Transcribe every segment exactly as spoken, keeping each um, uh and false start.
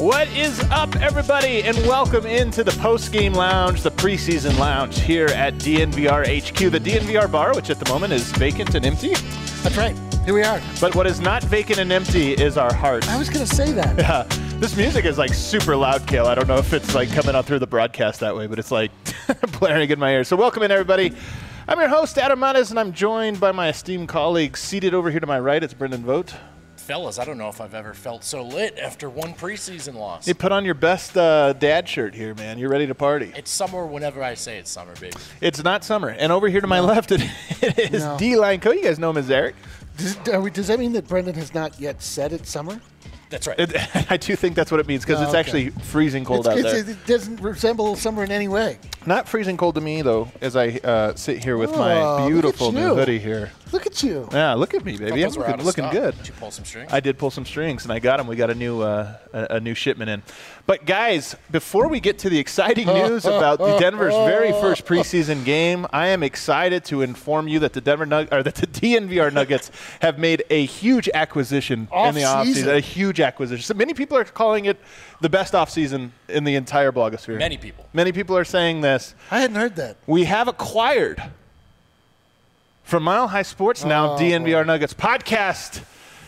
What is up, everybody, and welcome into the post-game lounge, the preseason lounge here at D N V R H Q, the D N V R bar, which at the moment is vacant and empty. That's right. Here we are. But what is not vacant and empty is our hearts. I was going to say that. Yeah. This music is like super loud, Kale. I don't know if it's like coming out through the broadcast that way, but it's like blaring in my ears. So welcome in, everybody. I'm your host, Adam Mattes, and I'm joined by my esteemed colleagues. Seated over here to my right, it's Brendan Vogt. Fellas, I don't know if I've ever felt so lit after one preseason loss. You put on your best uh, dad shirt here, man. You're ready to party. It's summer whenever I say it's summer, baby. It's not summer. And over here to my no. left, it, it is no. D-Line Co. You guys know him as Eric. Does, are we, does that mean that Brendan has not yet said it's summer? That's right. It, I do think that's what it means because oh, it's okay. actually freezing cold it's, out it's, there. It doesn't resemble summer in any way. Not freezing cold to me, though, as I uh, sit here with oh, my beautiful new hoodie here. Look at you. Yeah, look at me, baby. I'm looking, looking good. Did you pull some strings? I did pull some strings, and I got them. We got a new uh, a, a new shipment in. But, guys, before we get to the exciting news about the Denver's very first preseason game, I am excited to inform you that the Denver Nug- or that the D N V R Nuggets have made a huge acquisition off in the offseason. A huge acquisition. So many people are calling it the best offseason in the entire blogosphere. Many people. Many people are saying this. I hadn't heard that. We have acquired from Mile High Sports now, oh, D N V R boy. Nuggets podcast,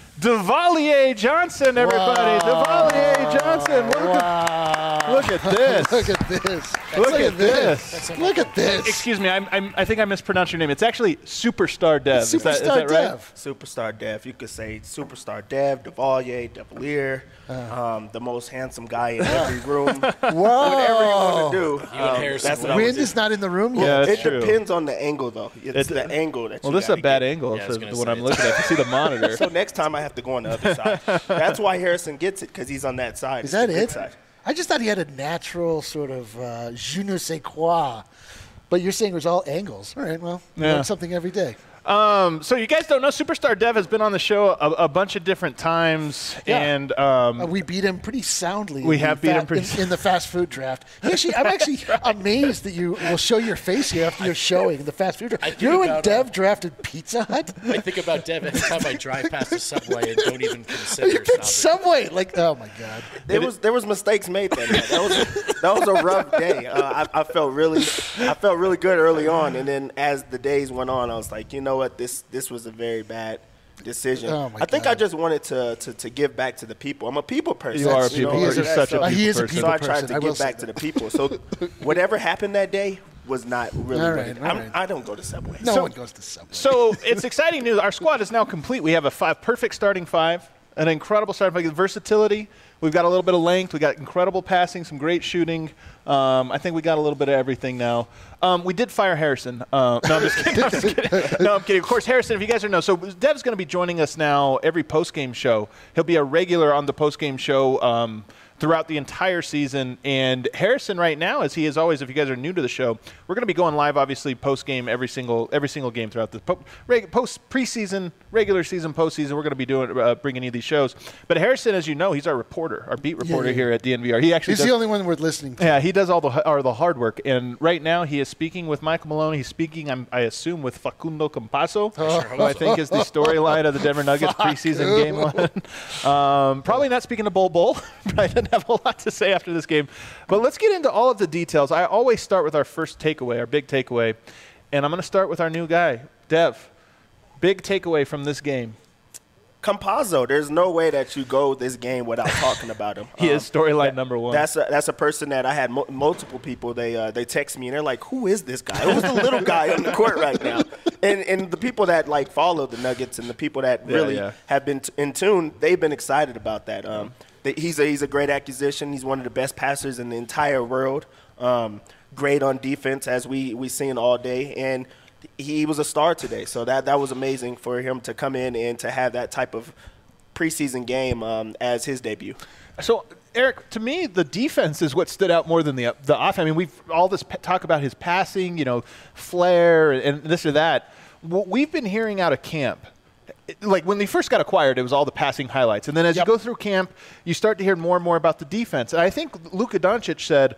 Devalier Johnson, everybody. Wow. Devalier Johnson. Look, wow. at, look at this. Look at this. Look, look at, at this. this. Look at this. Excuse me, I'm, I'm, I think I mispronounced your name. It's actually Superstar Dev. It's is that, Superstar is that right? Dev. Superstar Dev. You could say Superstar Dev, Devalier, Devalier, Uh. um, the most handsome guy in every room. Whoa. Whatever you want to do. You and Um, Harrison that's what I Wind would do. is not in the room Yeah, yet. that's It true. depends on the angle, though. It's, It's- the angle that you Well, this is a gotta bad get. angle, Yeah, I so was gonna when say I'm it's- looking at it. I can see the monitor. So next time I have to go on the other side. That's why Harrison gets it, because he's on that side. Is that It's the good it? side. I just thought he had a natural sort of uh, je ne sais quoi. But you're saying it was all angles. All right, well, you Yeah. learn something every day. Um, so you guys don't know, Superstar Dev has been on the show a, a bunch of different times, Yeah. and um, Uh, we beat him pretty soundly. We in have the beat fa- him pretty in, in the fast food draft. Actually, I'm actually amazed that you will show your face here after you're showing the fast food draft. think You know when about, Dev uh, drafted Pizza Hut? I think about Dev every time I drive past a Subway and don't even You consider picked stopping. Subway. Like, oh my God. There was there was mistakes made that night. That was that was a rough day. Uh, I, I felt really I felt really good early on, and then as the days went on, I was like, you know what, this this was a very bad decision. Oh, my I think God. I just wanted to, to to give back to the people. I'm a people person. You are a know, people He is person. a- You're such a so- people he is a person. people So I tried person. to I will give say back to that. the people. So whatever happened that day was not really. All what right, it- all I'm- right. I don't go to Subway. No So- one goes to Subway. So it's exciting news. Our squad is now complete. We have a five, perfect starting five, an incredible starting five. Versatility. We've got a little bit of length. We got incredible passing, some great shooting. Um, I think we got a little bit of everything now. Um, we did fire Harrison. Uh, no, I'm just kidding. I'm just kidding. No, I'm kidding. Of course, Harrison, if you guys don't know, so Dev's going to be joining us now every post-game show. He'll be a regular on the post-game show um, throughout the entire season. And Harrison right now, as he is always, if you guys are new to the show, we're going to be going live, obviously, post-game every single every single game throughout the po- reg- post preseason, regular season, postseason. We're going to be doing uh, bringing you these shows. But Harrison, as you know, he's our reporter, our beat reporter yeah. here at D N V R. He actually He's does, the only one worth listening to. yeah, he does all the or the hard work. And right now, he is speaking with Michael Malone. He's speaking, I'm, I assume, with Facundo Campasso, who I think is the storyline of the Denver Nuggets preseason game one. Um, probably not speaking to Bol Bol. I didn't have a lot to say after this game. But let's get into all of the details. I always start with our first takeaway, our big takeaway. And I'm going to start with our new guy, Dev. Big takeaway from this game. Campazzo, there's no way that you go this game without talking about him. He Um, is storyline number one. That's a, that's a person that I had mo- multiple people. They uh, they text me and they're like, "Who is this guy? Who's the little guy on the court right now?" And and the people that like follow the Nuggets and the people that Yeah, really yeah. have been t- in tune, they've been excited about that. Um, they, he's a he's a great acquisition. He's one of the best passers in the entire world. Um, great on defense, as we we seen all day, and he was a star today. So that that was amazing for him to come in and to have that type of preseason game um, as his debut. So, Eric, to me, the defense is what stood out more than the the offense. I mean, we've all this p- talk about his passing, you know, flair and this or that. What we've been hearing out of camp, it- like when they first got acquired, it was all the passing highlights. And then as Yep. you go through camp, you start to hear more and more about the defense. And I think Luka Doncic said,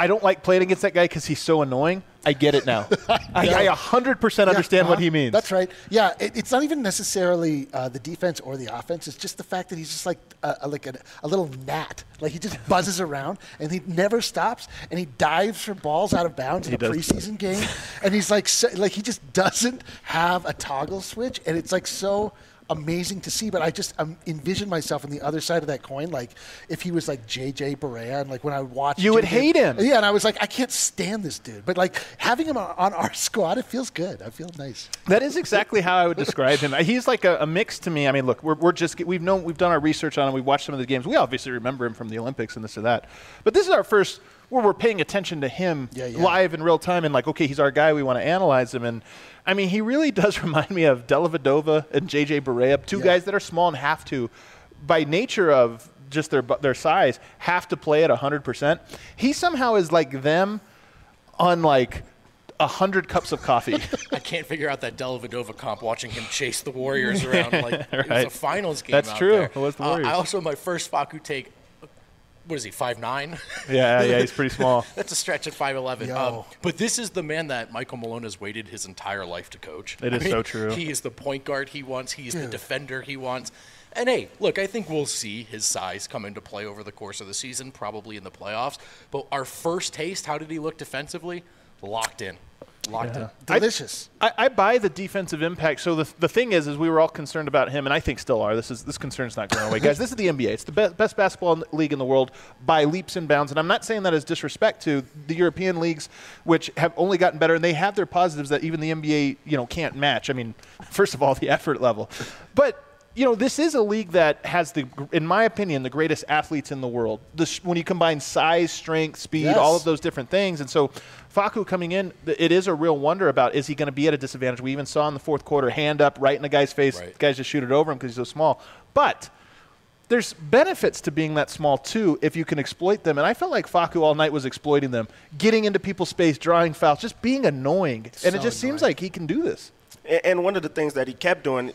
I don't like playing against that guy because he's so annoying. I get it now. I, I one hundred percent understand uh-huh. what he means. That's right. Yeah, it, it's not even necessarily uh, the defense or the offense. It's just the fact that he's just like a, a, like a, a little gnat. Like he just buzzes around and he never stops and he dives for balls out of bounds in He a does. preseason game. And he's like, so, like he just doesn't have a toggle switch, and it's like so amazing to see. But I just um, envision myself on the other side of that coin, like if he was like J J Barea, and like when I would watch, You would J J hate him. Yeah, and I was like, I can't stand this dude. But like having him on, on our squad, it feels good. I feel nice. That is exactly how I would describe him. He's like a, a mix to me. I mean, look, we're, we're just we've known we've done our research on him. We've watched some of the games. We obviously remember him from the Olympics and this or that. But this is our first where we're paying attention to him Yeah, yeah. live in real time and like, okay, he's our guy. We want to analyze him. And I mean, he really does remind me of Dellavedova and J J Barea, two Yeah. guys that are small and have to, by nature of just their their size, have to play at one hundred percent. He somehow is like them on like a hundred cups of coffee. I can't figure out that Dellavedova comp watching him chase the Warriors around like it was Right. a finals game. That's out true. there. It was the Uh, Warriors. I also my first Facu take. What is he? five nine yeah, yeah, he's pretty small. That's a stretch at five eleven. Yo. Um, but this is the man that Michael Malone has waited his entire life to coach. It I is mean, so true. He is the point guard he wants. He is the Dude. defender he wants. And hey, look, I think we'll see his size come into play over the course of the season, probably in the playoffs. But our first taste, how did he look defensively? Locked in. Locked in. Delicious. I, I buy the defensive impact. So the, the thing is, is we were all concerned about him, and I think still are. This is this concern's not going away, guys. This is the N B A. It's the be- best basketball in the league in the world by leaps and bounds. And I'm not saying that as disrespect to the European leagues, which have only gotten better, and they have their positives that even the N B A, you know, can't match. I mean, first of all, the effort level, but. You know, this is a league that has the, in my opinion, the greatest athletes in the world. The sh- when you combine size, strength, speed, Yes. all of those different things, and so Facu coming in, th- it is a real wonder about is he going to be at a disadvantage? We even saw in the fourth quarter, hand up right in the guy's face. Right. Guys just shoot it over him because he's so small. But there's benefits to being that small too if you can exploit them. And I felt like Facu all night was exploiting them, getting into people's space, drawing fouls, just being annoying. and So it just seems annoying. like he can do this. And, and one of the things that he kept doing,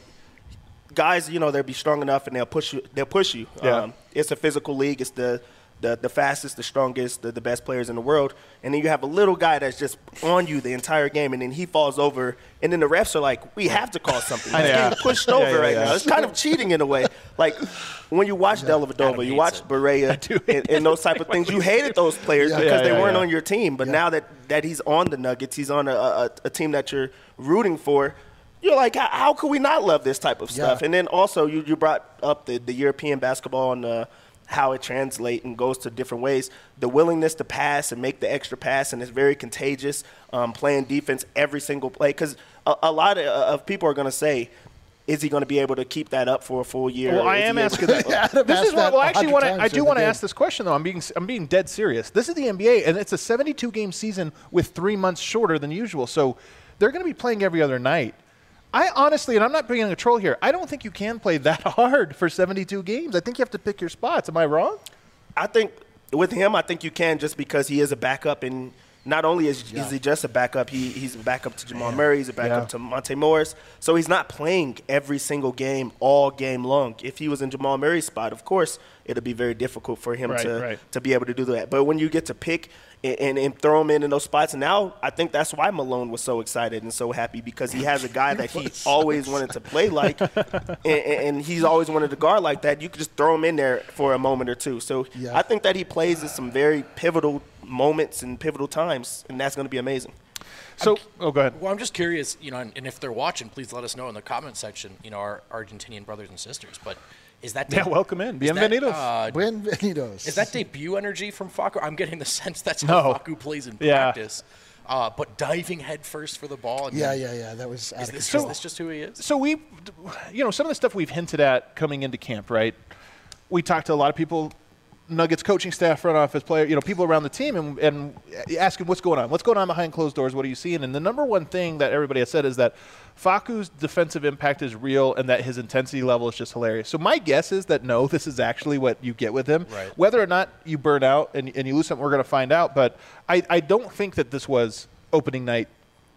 guys, you know, they'll be strong enough and they'll push you. They'll push you. Yeah. Um, it's a physical league. It's the the, the fastest, the strongest, the, the best players in the world. And then you have a little guy that's just on you the entire game, and then he falls over, and then the refs are like, we have to call something. He's Yeah. getting pushed Yeah, over yeah, right yeah. now. It's kind of cheating in a way. Like when you watch Dellavedova, Adam you hates watch it. Barea and, and those type of things. You hated those players Yeah. because Yeah, they yeah, weren't yeah. on your team. But now that, that he's on the Nuggets, he's on a, a, a team that you're rooting for, you're like, how, how could we not love this type of stuff? Yeah. And then also you, you brought up the, the European basketball and uh, how it translates and goes to different ways. The willingness to pass and make the extra pass, and it's very contagious, um, playing defense every single play. Because a, a lot of, of people are going to say, is he going to be able to keep that up for a full year? Well, I Is he am able- asking that. Adam this asked is what that well, a actually hundred want times I do during want to the ask game. this question though. I'm being I'm being dead serious. This is the N B A, and it's a seventy-two game season with three months shorter than usual. So they're going to be playing every other night. I honestly, and I'm not being a troll here, I don't think you can play that hard for seventy-two games. I think you have to pick your spots. Am I wrong? I think with him, I think you can just because he is a backup, and not only is, is he just a backup, he, he's a backup to Jamal Murray, he's a backup Yeah. to Monte Morris. So he's not playing every single game all game long. If he was in Jamal Murray's spot, of course, it'd be very difficult for him Right, to right. to be able to do that. But when you get to pick and, and, and throw him in in those spots, and now I think that's why Malone was so excited and so happy, because he has a guy that he always wanted to play like, and, and he's always wanted to guard like that. You could just throw him in there for a moment or two. So Yeah. I think that he plays in some very pivotal moments and pivotal times, and that's going to be amazing. So, oh, go ahead. Well, I'm just curious, you know, and, and if they're watching, please let us know in the comment section, you know, our Argentinian brothers and sisters. But is that Yeah, welcome in. is that, Bienvenidos. uh, Buenvenidos. Is that debut energy from Facu? I'm getting the sense that's No. how Facu plays in Yeah. practice. Uh, but diving headfirst for the ball. I mean, Yeah, yeah, yeah. That was out Is of this, control. is this just who he is? So we, you know, some of the stuff we've hinted at coming into camp, right? We talked to a lot of people, Nuggets coaching staff, front office player, you know, people around the team, and, and asking what's going on, what's going on behind closed doors, what are you seeing? And the number one thing that everybody has said is that Facu's defensive impact is real and that his intensity level is just hilarious. So my guess is that no, this is actually what you get with him. Right. Whether or not you burn out and, and you lose something, we're going to find out. But I, I don't think that this was opening night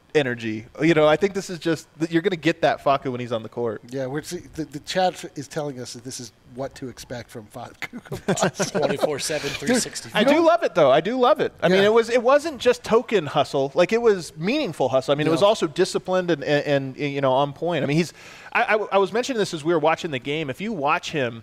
energy. You know, I think this is just you're going to get that Facu when he's on the court. Yeah, we're see, the, the chat is telling us that this is what to expect from Facu. twenty-four seven, three sixty-five. I do love it though. I do love it. I Yeah. mean, it was it wasn't just token hustle. Like it was meaningful hustle. I mean, it was Yeah. also disciplined and, and, and you know on point. I mean, he's. I, I, I was mentioning this as we were watching the game. If you watch him.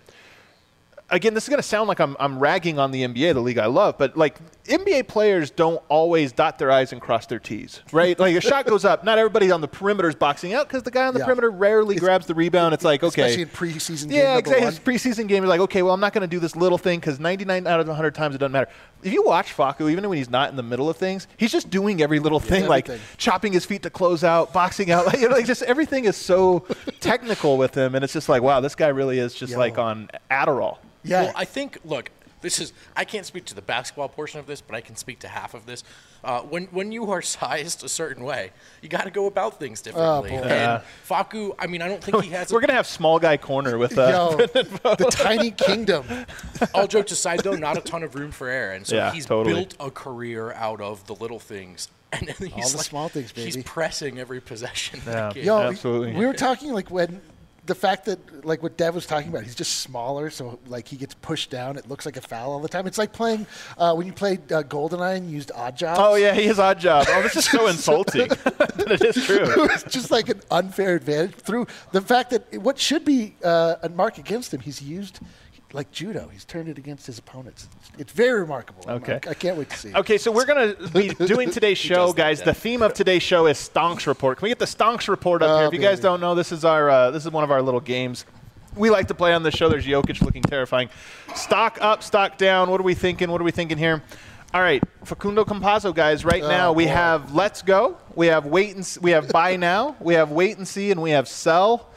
Again, this is going to sound like I'm, I'm ragging on the N B A, the league I love, but like N B A players don't always dot their I's and cross their T's, right? Like a shot goes up, not everybody on the perimeter is boxing out because the guy on the Yeah. perimeter rarely It's- grabs the rebound. It's like, okay. Especially in preseason game Yeah, number exactly. one. His preseason game, you're like, okay, well, I'm not going to do this little thing because ninety-nine out of one hundred times it doesn't matter. If you watch Facu, even when he's not in the middle of things, he's just doing every little thing, like everything. chopping his feet to close out, boxing out. Like, you know, like just everything is so technical with him, and it's just like, wow, this guy really is just Yo. like on Adderall. Yeah. Well, I think, look, this is, I can't speak to the basketball portion of this, but I can speak to half of this. Uh, when when you are sized a certain way, you got to go about things differently. boy. and Yeah. Facu, I mean, I don't think he has. We're going to have small guy corner with uh, Yo, the tiny kingdom. All jokes aside, though, not a ton of room for error, and so Yeah, he's totally. built a career out of the little things. And then he's the like, small things, He's baby. pressing every possession. Yeah. That kid. Yo, Absolutely. we were talking like when the fact that like what Dev was talking about, he's just smaller, so like he gets pushed down. It looks like a foul all the time. It's like playing uh, when you played uh, GoldenEye and used odd jobs. Oh, yeah, he is odd job. Oh, this is so insulting. But it is true. It's just like an unfair advantage through the fact that what should be uh, a mark against him, he's used like judo. He's turned it against his opponents. It's very remarkable. I'm- Okay. I can't wait to see it. Okay, so we're going to be doing today's show, does that, guys. Dad. The theme of today's show is Stonks Report. Can we get the Stonks Report up Oh, here? If you guys baby. don't know, this is our uh, this is one of our little games we like to play on this show. There's Jokic looking terrifying. Stock up, stock down. What are we thinking? What are we thinking here? All right, Facundo Campazzo, guys. Right Oh, now we boy. have Let's Go. We have Wait and s- we have Buy Now. We have Wait and See, and we have Sell.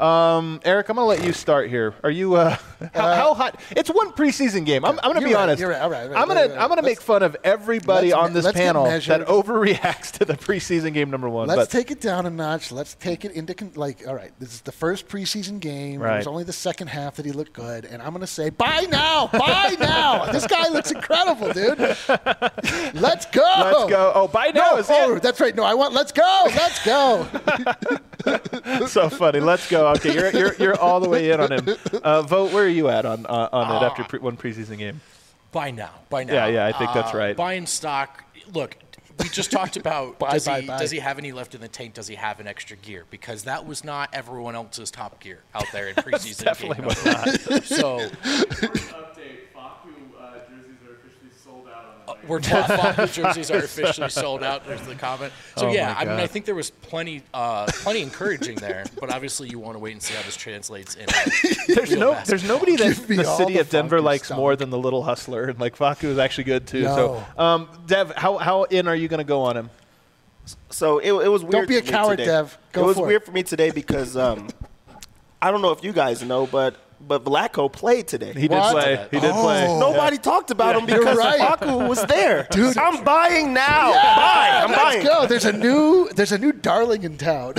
Um, Eric, I'm going to let you start here. Are you uh, how, Uh, how hot? It's one preseason game. I'm, I'm going to You're be right, honest. you're right, all right, all right, I'm going right, to right. I'm going to make Let's- fun of everybody let's on me- this let's get panel measured. that overreacts to the preseason game number one. Let's but take it down a notch. Let's take it into con- like, all right, this is the first preseason game. It Right. was only the second half that he looked good, and I'm going to say, buy now, buy now. This guy looks incredible, dude. Let's go. let's go. Oh, Buy Now No, is oh, it. that's right. No, I want. Let's go. Let's go. So funny. Let's go. Okay, you're you're you're all the way in on him. Uh, Vote. Where are you at on uh, on it after pre- one preseason game? By now. By now. Yeah, yeah, I think that's Uh, right. Buying stock. Look, we just talked about Buy, does, buy, he, buy. does he have any left in the tank? Does he have an extra gear? Because that was not everyone else's top gear out there in preseason. Definitely game was number one. So Update, Facu uh, jerseys are officially sold out on the uh, we're talking Facu jerseys are officially sold out. There's the comment. So Oh yeah, my I mean, God. I think there was plenty, uh, plenty encouraging there. But obviously, you want to wait and see how this translates in. There's real no basketball. there's nobody that Give me the all city the of Denver Facu likes stuff. more than the little hustler, and like Facu is actually good too. No. So, um, Dev, how how in are you going to go on him? So it, it was weird. be a for me coward, today. Dev. Go it was for weird it. for me today because um, I don't know if you guys know, but but Vlatko played today. He did What? play. He did play. Oh. Nobody talked about him because right. Facu was there. Dude. I'm buying now. Buy. I'm Let's buying. go. There's a new. There's a new darling in town.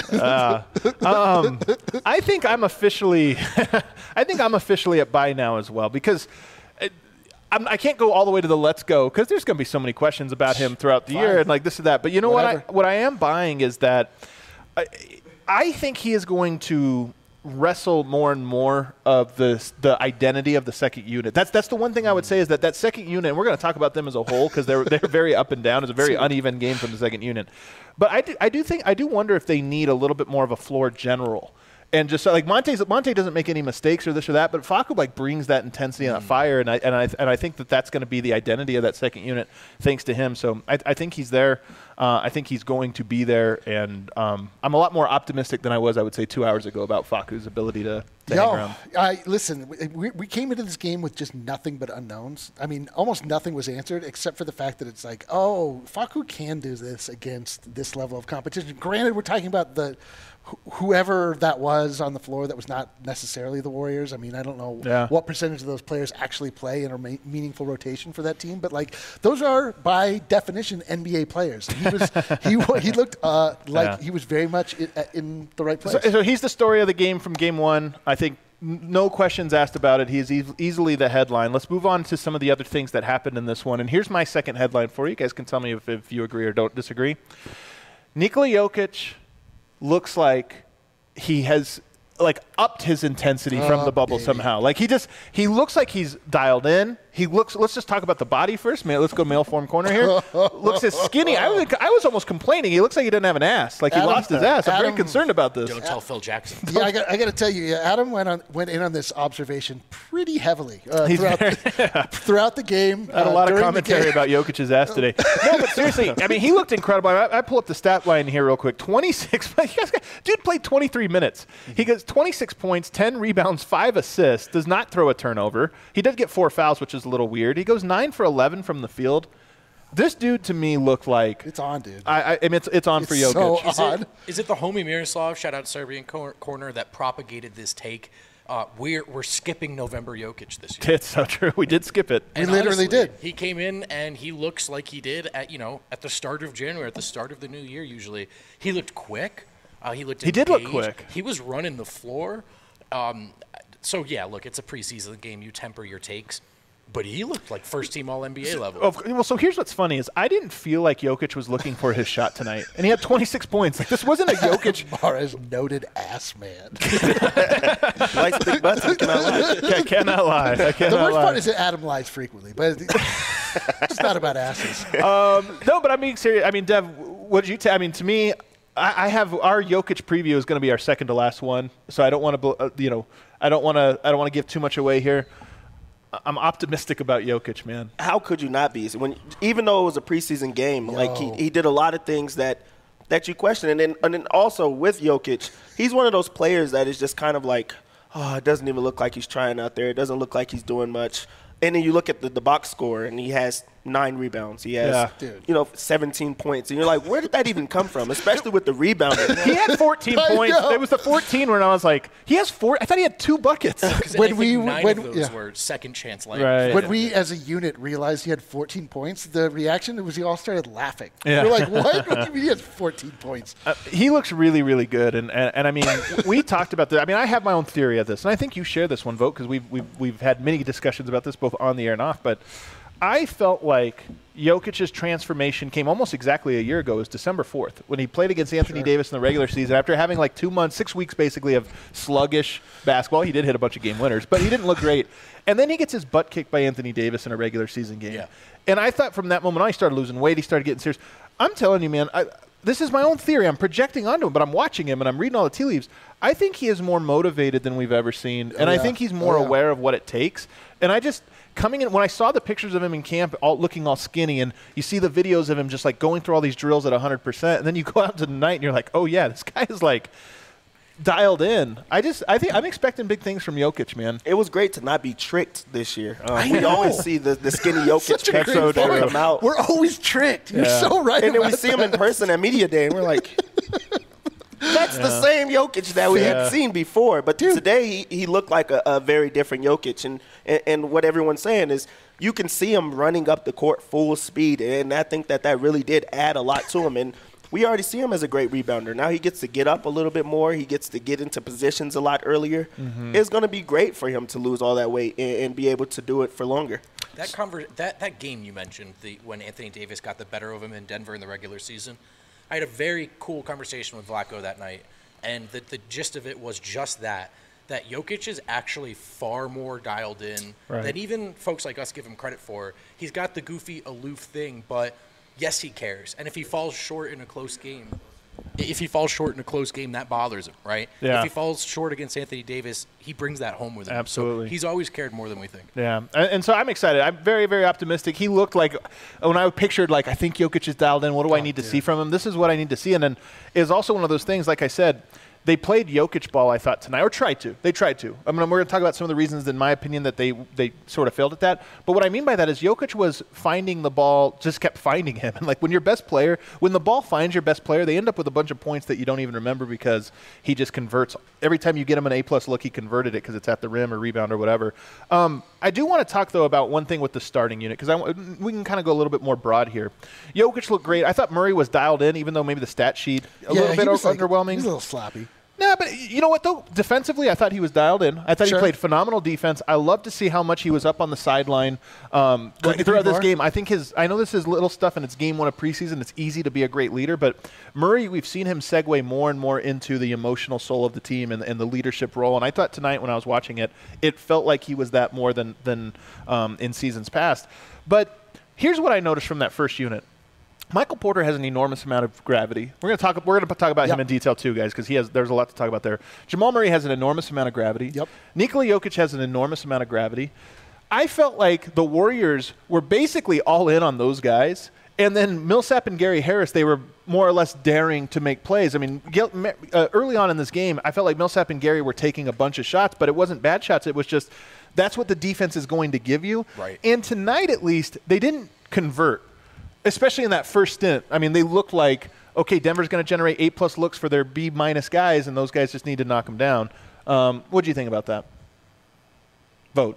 Um, I think I'm officially, I think I'm officially at Buy Now as well because it, I'm, I can't go all the way to the Let's Go because there's going to be so many questions about him throughout the Fine. year and like this and that. But you know Whatever. what? I, what I am buying is that I, I think he is going to wrestle more and more of the the identity of the second unit. That's that's the one thing I would say is that that second unit. And we're going to talk about them as a whole because they're they're very up and down. It's a very uneven game from the second unit. But I do, I do think I do wonder if they need a little bit more of a floor general. And just like Monte's, Monte doesn't make any mistakes or this or that, but Facu like brings that intensity and that fire, and I and I and I think that that's going to be the identity of that second unit, thanks to him. So I, I think he's there. Uh, I think he's going to be there, and um, I'm a lot more optimistic than I was, I would say, two hours ago about Facu's ability to, to hang Yo, around. I listen. We, we came into this game with just nothing but unknowns. I mean, almost nothing was answered except for the fact that it's like, oh, Facu can do this against this level of competition. Granted, we're talking about the wh- whoever that was on the floor that was not necessarily the Warriors. I mean, I don't know Yeah. what percentage of those players actually play in a ma- meaningful rotation for that team, but like those are by definition N B A players. He was he wa- he looked uh, like Yeah. he was very much in, in the right place. So, so he's the story of the game from game one. I think n- no questions asked about it. He is e- easily the headline. Let's move on to some of the other things that happened in this one. And here's my second headline for you. You guys can tell me if, if you agree or don't disagree. Nikola Jokic looks like he has like upped his intensity from Oh, the bubble baby. somehow. Like he just he looks like he's dialed in. He looks. Let's just talk about the body first. Man, let's go male form corner here. Looks as skinny. I was I was almost complaining. He looks like he didn't have an ass. Like he Adam- lost his ass. I'm very Adam- concerned about this. Don't tell Phil Jackson. Yeah, I got, I got to tell you, yeah, Adam went on went in on this observation pretty heavily uh, He's throughout, very- the, throughout the game. I had a uh, lot of during the commentary game. about Jokic's ass today. No, but seriously, I mean, he looked incredible. I, I pull up the stat line here real quick. twenty-six. Dude played twenty-three minutes. He gets twenty-six points, ten rebounds, five assists. Does not throw a turnover. He did get four fouls, which is a little weird. He goes nine for eleven from the field. This dude to me looked like It's on, dude. I, I, I mean, it's it's on for It's Jokic. so Is odd. it, is it the homie Miroslav, shout out Serbian cor- corner, that propagated this take? Uh, we're we're skipping November Jokic this year. It's so true. We did skip it. We And literally honestly, did. He came in and he looks like he did at you know at the start of January, at the start of the new year. Usually, he looked quick. Uh, he looked. He did look engaged. quick. He was running the floor. Um, so yeah, look, it's a preseason game. You temper your takes, but he looked like first team All N B A level. Of- well, so here's what's funny is I didn't feel like Jokic was looking for his shot tonight, and he had twenty-six points. Like this wasn't a Jokic. Mara's noted ass man. Likes big butts. I cannot lie. I cannot lie. I The cannot worst lie. part is that Adam lies frequently, but it's not about asses. No, but I'm being serious. I mean, Dev, what did you tell? I mean, to me, I, I have our Jokic preview is going to be our second to last one, so I don't want to, uh, you know, I don't want to, I don't want to give too much away here. I- I'm optimistic about Jokic, man. How could you not be? So when even though it was a preseason game, like he, Yo. he did a lot of things that that you question, and then and then also with Jokic, he's one of those players that is just kind of like, oh, it doesn't even look like he's trying out there. It doesn't look like he's doing much. And then you look at the, the box score, and he has nine rebounds. He has, Yeah. Dude. you know, seventeen points. And you're like, where did that even come from? Especially with the rebounding. He had fourteen I points. know. It was the fourteen where I was like, he has four. I thought he had two buckets. Because when I think we- nine when- of those yeah. were second chance layups. Right. When we, as a unit, realized he had fourteen points, the reaction was we all started laughing. Yeah. We're like, what? What do you mean he has fourteen points? Uh, he looks really, really good, and and, and I mean, we talked about this. I mean, I have my own theory of this, and I think you share this one, Vote, because we've we've we've had many discussions about this both on the air and off. But I felt like Jokic's transformation came almost exactly a year ago. It was December fourth when he played against Anthony Davis in the regular season. After having like two months, six weeks basically of sluggish basketball, he did hit a bunch of game winners, but he didn't look great. And then he gets his butt kicked by Anthony Davis in a regular season game. Yeah. And I thought from that moment on, he started losing weight. He started getting serious. I'm telling you, man, I, this is my own theory. I'm projecting onto him, but I'm watching him and I'm reading all the tea leaves. I think he is more motivated than we've ever seen, and I yeah. think he's more Oh, yeah. aware of what it takes. And I just coming in when I saw the pictures of him in camp, all looking all skinny, and you see the videos of him just like going through all these drills at one hundred percent, and then you go out to the night and you're like, oh yeah, this guy is like dialed in. I just I think I'm expecting big things from Jokic, man. It was great to not be tricked this year. Um, we always see the, the skinny Jokic Such a picture great point. come out. We're always tricked. You're Yeah. so right. And then we about see him in that. person at Media Day, and we're like, that's the same Jokic that we Yeah. had seen before. But today, he, he looked like a, a very different Jokic. And, and, and what everyone's saying is you can see him running up the court full speed, and I think that that really did add a lot to him. And we already see him as a great rebounder. Now he gets to get up a little bit more. He gets to get into positions a lot earlier. It's going to be great for him to lose all that weight and, and be able to do it for longer. That conver- that that game you mentioned, the when Anthony Davis got the better of him in Denver in the regular season, I had a very cool conversation with Vlatko that night, and the the gist of it was just that that Jokic is actually far more dialed in Right. than even folks like us give him credit for. He's got the goofy, aloof thing, but yes, he cares. And if he falls short in a close game, if he falls short in a close game, that bothers him, right? Yeah. If he falls short against Anthony Davis, he brings that home with him. So Absolutely. he's always cared more than we think. Yeah, and, and so I'm excited. I'm very, very optimistic. He looked like when I pictured like I think Jokic is dialed in. What do I need to see from him? This is what I need to see. And then is also one of those things. Like I said, they played Jokic ball. I thought tonight, or tried to. They tried to. I mean, we're going to talk about some of the reasons, in my opinion, that they they sort of failed at that. But what I mean by that is Jokic was finding the ball, just kept finding him. And like when your best player, when the ball finds your best player, they end up with a bunch of points that you don't even remember because he just converts. Every time you get him an A plus look, he converted it because it's at the rim or rebound or whatever. Um, I do want to talk though about one thing with the starting unit because we can kind of go a little bit more broad here. Jokic looked great. I thought Murray was dialed in, even though maybe the stat sheet a Yeah, little he bit was like- underwhelming. He was a little sloppy. No, but you know what, though? Defensively, I thought he was dialed in. I thought Sure. he played phenomenal defense. I love to see how much he was up on the sideline um, Couldn't agree throughout this more. game. I think his – I know this is little stuff, and it's game one of preseason. It's easy to be a great leader. But Murray, we've seen him segue more and more into the emotional soul of the team and, and the leadership role. And I thought tonight when I was watching it, it felt like he was that more than, than um, in seasons past. But here's what I noticed from that first unit. Michael Porter has an enormous amount of gravity. We're going to talk. We're going to talk about Yep. him in detail too, guys, because he has. There's a lot to talk about there. Jamal Murray has an enormous amount of gravity. Yep. Nikola Jokic has an enormous amount of gravity. I felt like the Warriors were basically all in on those guys, and then Millsap and Gary Harris, they were more or less daring to make plays. I mean, Gil- uh, early on in this game, I felt like Millsap and Gary were taking a bunch of shots, but it wasn't bad shots. It was just that's what the defense is going to give you. Right. And tonight, at least, they didn't convert. Especially in that first stint. I mean, they looked like, okay, Denver's going to generate eight-plus looks for their B-minus guys, and those guys just need to knock them down. Um, what do you think about that? Vote.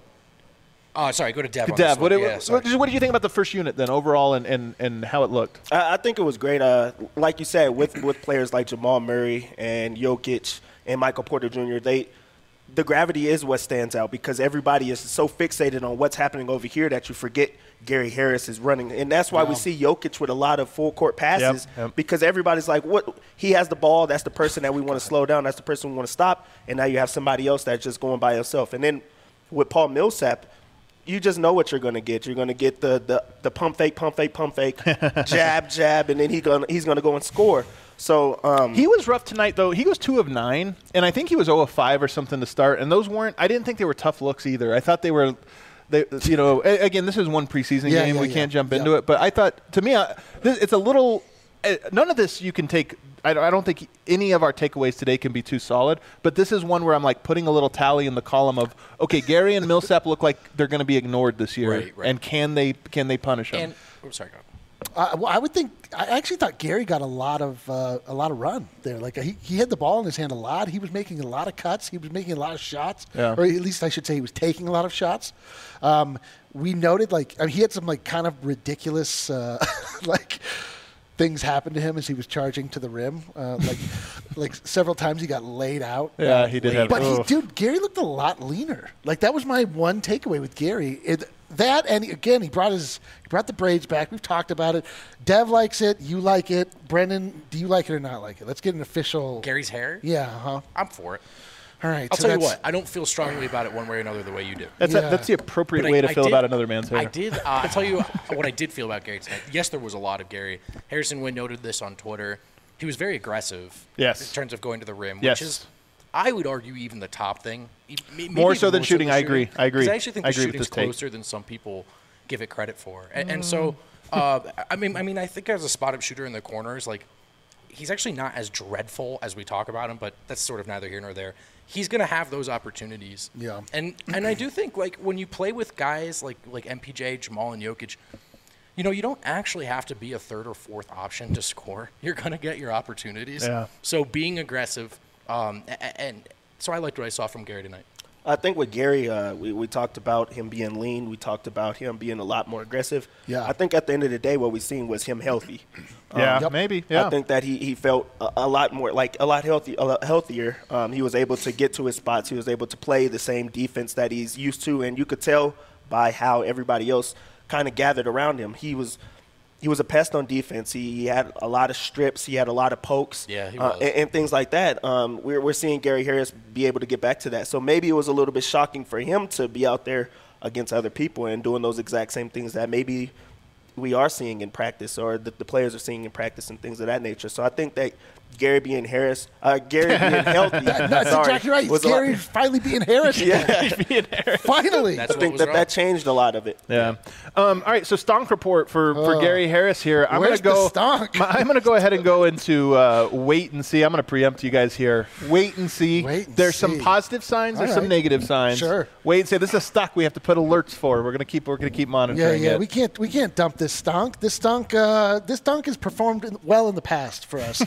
Oh, sorry, go to Dev. on Dev, this what, one. what, Yeah, sorry. what, what did you think about the first unit then, overall, and, and, and how it looked? I, I think it was great. Uh, like you said, with, with players like Jamal Murray and Jokic and Michael Porter Junior, they the gravity is what stands out because everybody is so fixated on what's happening over here that you forget Gary Harris is running. And that's why we see Jokic with a lot of full-court passes Yep, yep. because everybody's like, "What? He has the ball. That's the person that we want to slow down. That's the person we want to stop." And now you have somebody else that's just going by himself. And then with Paul Millsap, you just know what you're going to get. You're going to get the, the, the pump fake, pump fake, pump fake, jab, jab, and then he gonna, he's going to go and score. So um, He was rough tonight, though. He was two of nine, and I think he was zero of five or something to start. And those weren't – I didn't think they were tough looks either. I thought they were – They, you know, a- again, this is one preseason Yeah, game. yeah, we yeah. can't jump Yeah. into it. But I thought, to me, I, this, it's a little uh, – none of this you can take – I I don't think any of our takeaways today can be too solid. But this is one where I'm like putting a little tally in the column of, okay, Gary and Millsap look like they're going to be ignored this year. Right, right. And can they can they punish them? And oh, sorry, go. Uh, well, I would think. I actually thought Gary got a lot of uh, a lot of run there. Like he, he had the ball in his hand a lot. He was making a lot of cuts. He was making a lot of shots, Yeah. or at least I should say he was taking a lot of shots. Um, we noted like I mean, he had some like kind of ridiculous uh, like things happen to him as he was charging to the rim. Uh, like like several times he got laid out. Yeah, he did have- But he, Ugh. dude, Gary looked a lot leaner. Like that was my one takeaway with Gary. It, that and again, he brought his he brought the braids back. We've talked about it. Dev likes it. You like it. Brendan, do you like it or not like it? Let's get an official. Gary's hair? Yeah. Huh. I'm for it. All right. I'll so tell you that's- what, I don't feel strongly about it one way or another the way you do. that's, Yeah. a, that's the appropriate But I- way to I feel did- about another man's hair. I did. Uh, I'll tell you what I did feel about Gary tonight. Yes, there was a lot of Gary. Harrison Wind noted this on Twitter. He was very aggressive. Yes. In terms of going to the rim, Yes. which is, I would argue, even the top thing. E- maybe More even so than shooting, I agree. I agree. 'Cause I actually think I the agree with shooting's this take. closer than some people give it credit for. And, and so, uh, I mean, I mean, I think as a spot-up shooter in the corners, like, he's actually not as dreadful as we talk about him, but that's sort of neither here nor there. He's going to have those opportunities. Yeah. And and I do think, like, when you play with guys like like M P J, Jamal, and Jokic, you know, you don't actually have to be a third or fourth option to score. You're going to get your opportunities. Yeah. So being aggressive, um, and, and so I liked what I saw from Gary tonight. I think with Gary, uh, we, we talked about him being lean. We talked about him being a lot more aggressive. Yeah. I think at the end of the day, what we seen was him healthy. yeah, Yep. maybe. Yeah. I think that he, he felt a, a lot more like a lot healthy, a lot healthier. Um, he was able to get to his spots. He was able to play the same defense that he's used to, and you could tell by how everybody else kind of gathered around him. He was he was a pest on defense. He, he had a lot of strips. He had a lot of pokes. Yeah, he uh, was. and, and things like that. Um, we're we're seeing Gary Harris be able to get back to that. So maybe it was a little bit shocking for him to be out there against other people and doing those exact same things that maybe we are seeing in practice or that the players are seeing in practice and things of that nature. So I think that Gary being Harris, uh, Gary being healthy, No, that's sorry, exactly right. was a lot- Gary finally being Harris. Yeah, Finally. That's I what think was that wrong. that changed a lot of it. Yeah. Um, all right. So stonk report for, for Oh. Gary Harris here. I'm Where's gonna go. the stonk? My- I'm gonna go ahead and go into uh, wait and see. I'm gonna preempt you guys here. Wait and see. Wait and There's see. some positive signs. There's All some right. negative signs. Sure. Wait and see. This is a stock we have to put alerts for. We're gonna keep. We're gonna keep Yeah, monitoring yeah. it. We can't we can't dump this stunk. This stunk uh, this stunk has performed in, well in the past for us.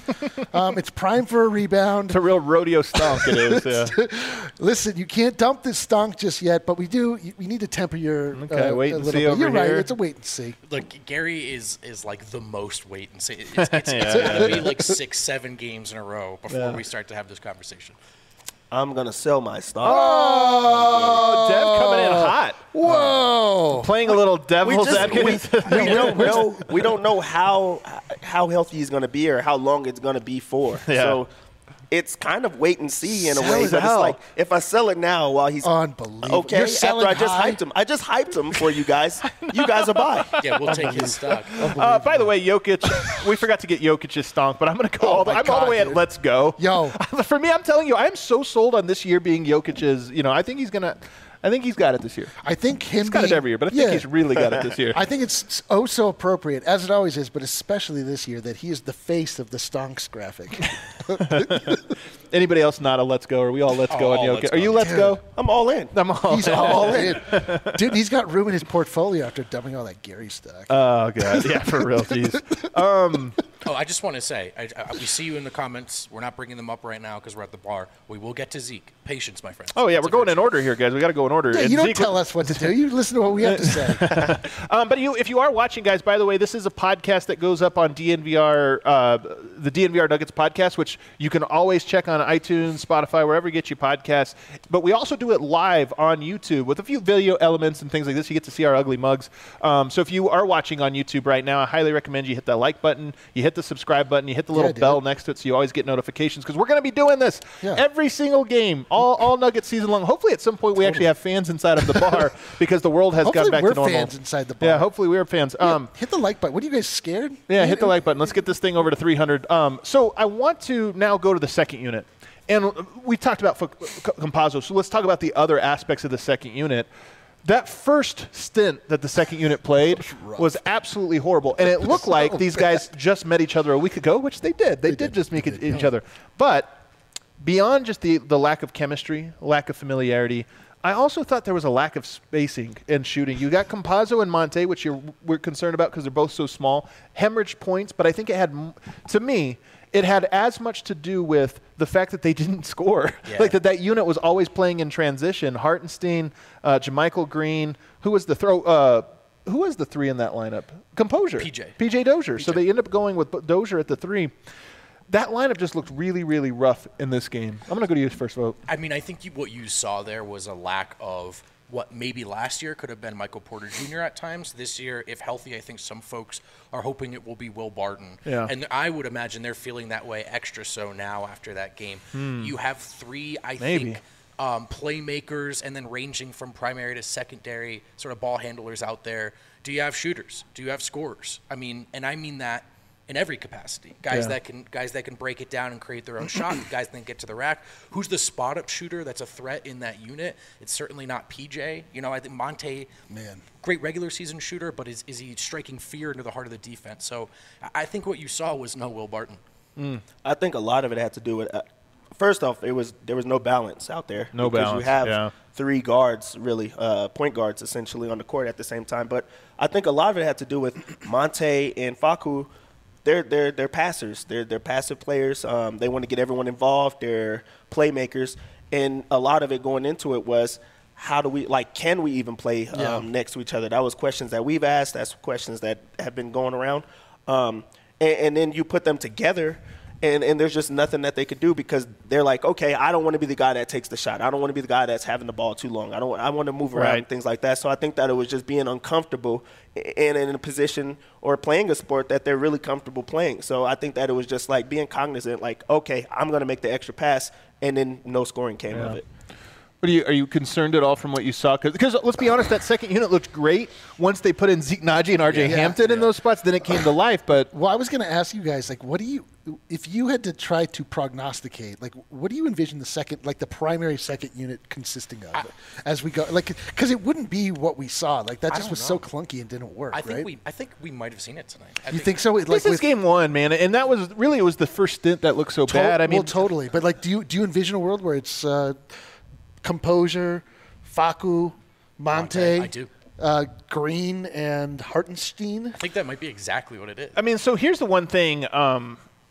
Um, it's prime for a rebound. It's a real rodeo stonk. It is. Yeah. Listen, you can't dump this stonk just yet, but we do. We need to temper your. Okay, uh, wait a and little see bit. over You're right. here. It's a wait and see. Look, Gary is is like the most wait and see. It's, it's, it's Yeah, going to yeah. be like six, seven games in a row before Yeah. we start to have this conversation. I'm gonna sell my stock. Oh, Dev coming in hot. Whoa! Playing a little We devil's just advocate. we, we don't know we don't know how how healthy he's going to be or how long it's going to be for. Yeah. So it's kind of wait and see in a Sell way. it But it's out. like if I sell it now while he's Unbelievable. okay, You're after selling I just high? hyped him, I just hyped him for you guys. You guys are buy. Yeah, we'll take his stock. Uh, by the way, Jokic, we forgot to get Jokic's stonk, but I'm going to go all the, my I'm all the God, way at dude. let's go. Yo. For me, I'm telling you, I'm so sold on this year being Jokic's. You know, I think he's going to, I think he's got it this year. I think him. He's got it being- every year, but I think yeah. he's really got it this year. I think it's oh so appropriate, as it always is, but especially this year, that he is the face of the stonks graphic. Anybody else not a let's go? Are we all let's Oh, go on all Jokic? let's Are go. you let's go? I'm all in. I'm all He's in. all in. Dude, he's got room in his portfolio after dumping all that Gary stock. Oh, God. Yeah, for real. Jeez. Um, Oh, I just want to say, I, I, we see you in the comments. We're not bringing them up right now because we're at the bar. We will get to Zeke. Patience, my friends. oh, yeah, It's we're a going in virtue. order here, guys. We got to go in order. yeah, And you don't Zeke- tell us what to do. You listen to what we have to say. Um, but you, if you are watching, guys, by the way, this is a podcast that goes up on D N V R, uh, the D N V R Nuggets podcast, which you can always check on iTunes, Spotify, wherever you get your podcasts. But we also do it live on YouTube with a few video elements and things like this. You get to see our ugly mugs. Um, so if you are watching on YouTube right now, I highly recommend you hit that like button, you hit the subscribe button, you hit the little dude. bell next to it so you always get notifications because we're going to be doing this Yeah. every single game, all, all Nuggets season long. Hopefully at some point we actually have fans inside of the bar because the world has Hopefully gotten back we're to normal. fans inside the bar. Yeah, hopefully we're fans. Um, Hit the like button. What are you guys scared? yeah, hit the like button. Let's get this thing over to three hundred. Um, so I want to now go to the second unit. And we talked about F- Campazzo, so let's talk about the other aspects of the second unit. That first stint that the second unit played was absolutely horrible. And it looked like these guys just met each other a week ago, which they did. They, did, just meet each other. But beyond just the, the lack of chemistry, lack of familiarity, I also thought there was a lack of spacing in shooting. You got Campazzo and Monte, which you're, we're concerned about because they're both so small, hemorrhage points, but I think it had, m- to me, it had as much to do with the fact that they didn't score. Yeah. Like that that unit was always playing in transition. Hartenstein, uh, Jermichael Green, who was the throw, uh, who was the three in that lineup? Composure. P J. P J Dozier. So they end up going with Dozier at the three. That lineup just looked really, really rough in this game. I'm going to go to you first, vote. I mean, I think you, what you saw there was a lack of what maybe last year could have been Michael Porter Junior at times. This year, if healthy, I think some folks are hoping it will be Will Barton. Yeah. And I would imagine they're feeling that way extra so now after that game. You have three, I Maybe. think, um, playmakers and then ranging from primary to secondary sort of ball handlers out there. Do you have shooters? Do you have scorers? I mean, and I mean that in every capacity. Guys Yeah. that can guys that can break it down and create their own shot, guys that can get to the rack. Who's the spot up shooter that's a threat in that unit? It's certainly not P J. You know, I think Monte, Man. great regular season shooter, but is, is he striking fear into the heart of the defense? So I- I think what you saw was no Will Barton. I think a lot of it had to do with. Uh, first off, it was there was no balance out there. No because balance, You have yeah. three guards, really, uh, point guards essentially on the court at the same time. But I think a lot of it had to do with Monte and Facu. They're they're they're passers. They're they're passive players. Um, they want to get everyone involved. They're playmakers, and a lot of it going into it was. How do we like? Can we even play um, Yeah. next to each other? That was questions that we've asked. That's questions that have been going around. Um, and, and then you put them together, and, and there's just nothing that they could do because they're like, okay, I don't want to be the guy that takes the shot. I don't want to be the guy that's having the ball too long. I don't. I want to move around Right. and things like that. So I think that it was just being uncomfortable and in a position or playing a sport that they're really comfortable playing. So I think that it was just like being cognizant, like, okay, I'm going to make the extra pass, and then no scoring came of it. What are you, are you concerned at all from what you saw? Because let's be honest, that second unit looked great once they put in Zeke Naji and R J Yeah. Hampton in Yeah. those spots. Then it came to life. But Well, I was going to ask you guys, like, what do you, if you had to try to prognosticate, like, what do you envision the second, like, the primary second unit consisting of as we go? Like, because it wouldn't be what we saw. Like, that I just don't was so know. clunky and didn't work, I think right? we I think we might have seen it tonight. I you think so? Like, this is with game one, man. And that was really, it was the first stint that looked so to- bad. I mean, well, totally. But, like, do you do you envision a world where it's uh, Composure, Facu, Monte, Monte, I do. Uh, Green, and Hartenstein? I think that might be exactly what it is. I mean, so here's the one thing. Um,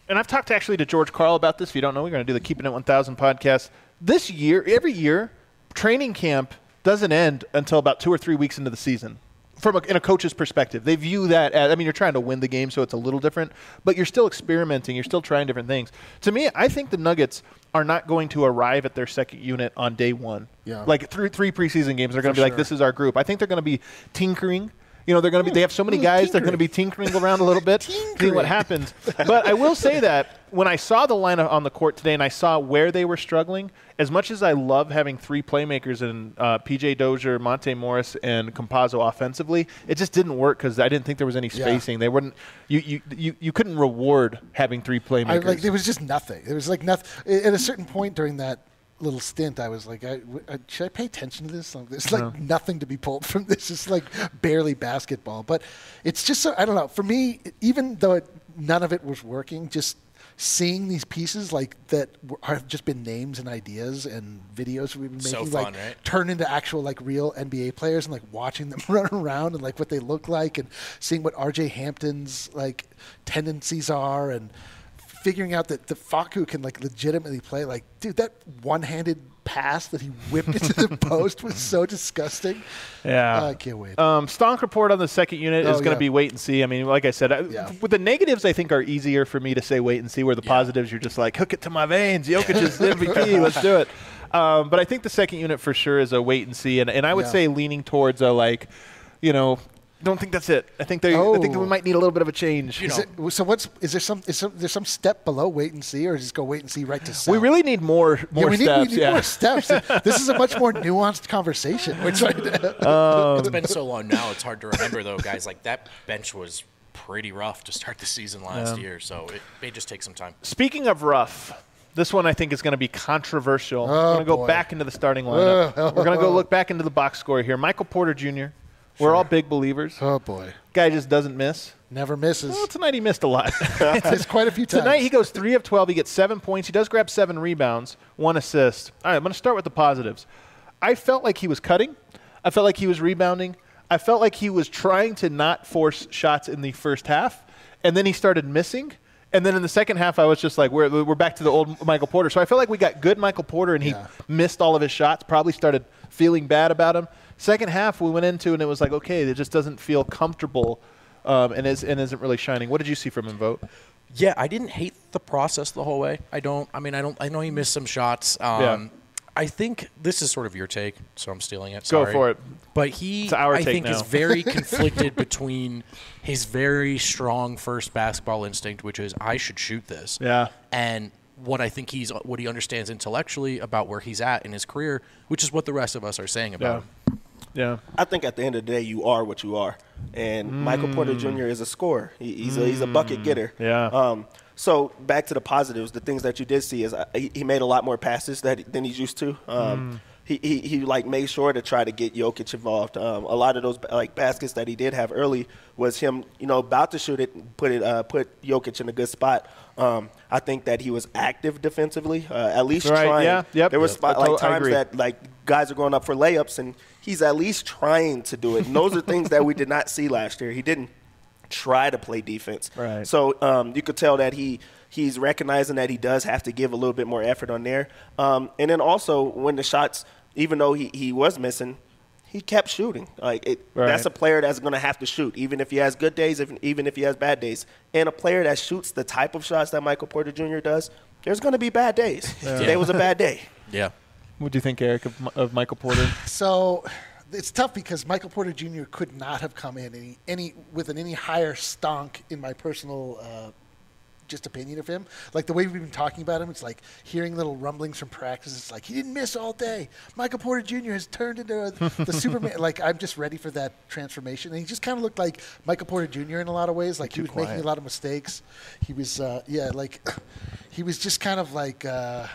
and I've talked actually to George Karl about this. If you don't know, we're going to do the Keeping It one thousand podcast. This year, every year, training camp doesn't end until about two or three weeks into the season. From a, in a coach's perspective, they view that as, I mean, you're trying to win the game, so it's a little different, but you're still experimenting. You're still trying different things. To me, I think the Nuggets are not going to arrive at their second unit on day one. Yeah. Like through three preseason games, they're going to be sure. like, this is our group. I think they're going to be tinkering. You know, they're going to be. They have so many guys. They're going to be tinkering around a little bit, seeing what happens. But I will say that when I saw the lineup on the court today, and I saw where they were struggling, as much as I love having three playmakers in uh, P J Dozier, Monte Morris, and Campazzo offensively, it just didn't work because I didn't think there was any spacing. Yeah. They wouldn't. You, you you you couldn't reward having three playmakers. I, like there was just nothing. There was like nothing. At a certain point during that little stint, I was like, I, I, should I pay attention to this? Like, there's like No. nothing to be pulled from this. It's like barely basketball. But it's just so, I don't know. For me, even though it, none of it was working, just seeing these pieces like that were, have just been names and ideas and videos we've been So making, fun, like right? turn into actual like real N B A players and like watching them run around and like what they look like and seeing what R J Hampton's like tendencies are and figuring out that the Facu can like legitimately play. Like, dude, that one-handed pass that he whipped into the post was so disgusting. Yeah. Uh, I can't wait. Um, Stonk report on the second unit Oh, is going to yeah. be wait and see. I mean, like I said, I, Yeah. with the negatives, I think are easier for me to say wait and see. Where the Yeah. positives, you're just like hook it to my veins. Jokic is M V P. Let's do it. Um, but I think the second unit for sure is a wait and see, and and I would Yeah. say leaning towards a like, you know. Don't think that's it. I think they. I think that we Oh. might need a little bit of a change. You Is know. it, so what's is there some is some, there's some step below wait and see, or just go wait and see right to sell? We really need more more yeah, we need, steps. we need yeah. more steps. This is a much more nuanced conversation. Which I, It's been so long now, it's hard to remember, though, guys. Like, that bench was pretty rough to start the season last Yeah. year, so it may just take some time. Speaking of rough, this one I think is going to be controversial. Oh, We're going to go boy. back into the starting lineup. Oh. We're going to go look back into the box score here. Michael Porter Junior We're all big believers. oh boy, Guy just doesn't miss. never misses. Well, tonight he missed a lot. It's quite a few times. Tonight he goes three of twelve. He gets seven points. He does grab seven rebounds, one assist. All right, I'm going to start with the positives. I felt like he was cutting. I felt like he was rebounding. I felt like he was trying to not force shots in the first half, and then he started missing. And then in the second half, I was just like, we're, we're back to the old Michael Porter. So I felt like we got good Michael Porter, and he Yeah. missed all of his shots, probably started feeling bad about him. Second half, we went into, and it was like, okay, it just doesn't feel comfortable um, and, is, and isn't really shining. What did you see from him, Vote? Yeah, I didn't hate the process the whole way. I don't. I mean, I don't. I know he missed some shots. Um, Yeah. I think this is sort of your take, so I'm stealing it. Go Sorry. for it. But he, It's our I take think, now. is very conflicted between his very strong first basketball instinct, which is I should shoot this, Yeah. and what I think he's what he understands intellectually about where he's at in his career, which is what the rest of us are saying about Yeah. him. Yeah. I think at the end of the day, you are what you are, and Michael Porter Junior is a scorer. He, he's a he's a bucket getter. Yeah. Um, so back to the positives, the things that you did see is uh, he, he made a lot more passes that than he's used to. Um, he, he he like made sure to try to get Jokic involved. Um, a lot of those like baskets that he did have early was him, you know, about to shoot it, and put it uh, put Jokic in a good spot. Um, I think that he was active defensively, uh, at least Right, trying. yeah, yep. There were Yep. spot, I like to- I times agree. that like guys are going up for layups and he's at least trying to do it. And those are things that we did not see last year. He didn't try to play defense. Right. So um, you could tell that he he's recognizing that he does have to give a little bit more effort on there. Um, and then also when the shots, even though he, he was missing, he kept shooting. Like it, Right. that's a player that's going to have to shoot, even if he has good days, if, even if he has bad days. And a player that shoots the type of shots that Michael Porter Junior does, there's going to be bad days. Today was a bad day. Yeah. What do you think, Eric, of, Mi- of Michael Porter? So it's tough because Michael Porter Junior could not have come in any, any with an any higher stonk in my personal uh, just opinion of him. Like the way we've been talking about him, it's like hearing little rumblings from practice. It's like he didn't miss all day. Michael Porter Junior has turned into a, the Superman. Like I'm just ready for that transformation. And he just kind of looked like Michael Porter Junior in a lot of ways. Like he was making a lot of mistakes. He was, uh, yeah, like he was just kind of like. Uh,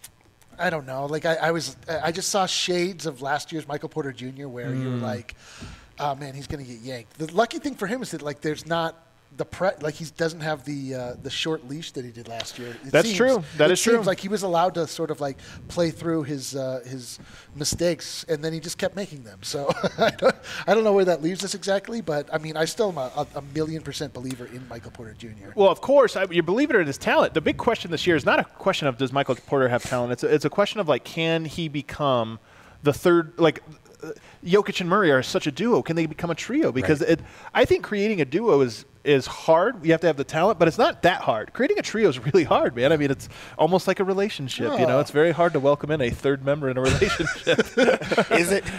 I don't know. Like I, I was, I just saw shades of last year's Michael Porter Junior where you were like, oh man, he's going to get yanked. The lucky thing for him is that like there's not the pre like he doesn't have the uh, the short leash that he did last year. It That's seems, true. That it is true. seems like he was allowed to sort of like play through his uh, his mistakes, and then he just kept making them. So I don't I don't know where that leaves us exactly, but I mean I still am a, a million percent believer in Michael Porter Junior Well, of course, I, you believe it or his talent. The big question this year is not a question of does Michael Porter have talent. It's a, it's a question of like can he become the third like. Uh, Jokic and Murray are such a duo. Can they become a trio? Because right. it, I think creating a duo is is hard. You have to have the talent, but it's not that hard. Creating a trio is really hard, man. I mean, it's almost like a relationship. Oh. You know, it's very hard to welcome in a third member in a relationship. Is it?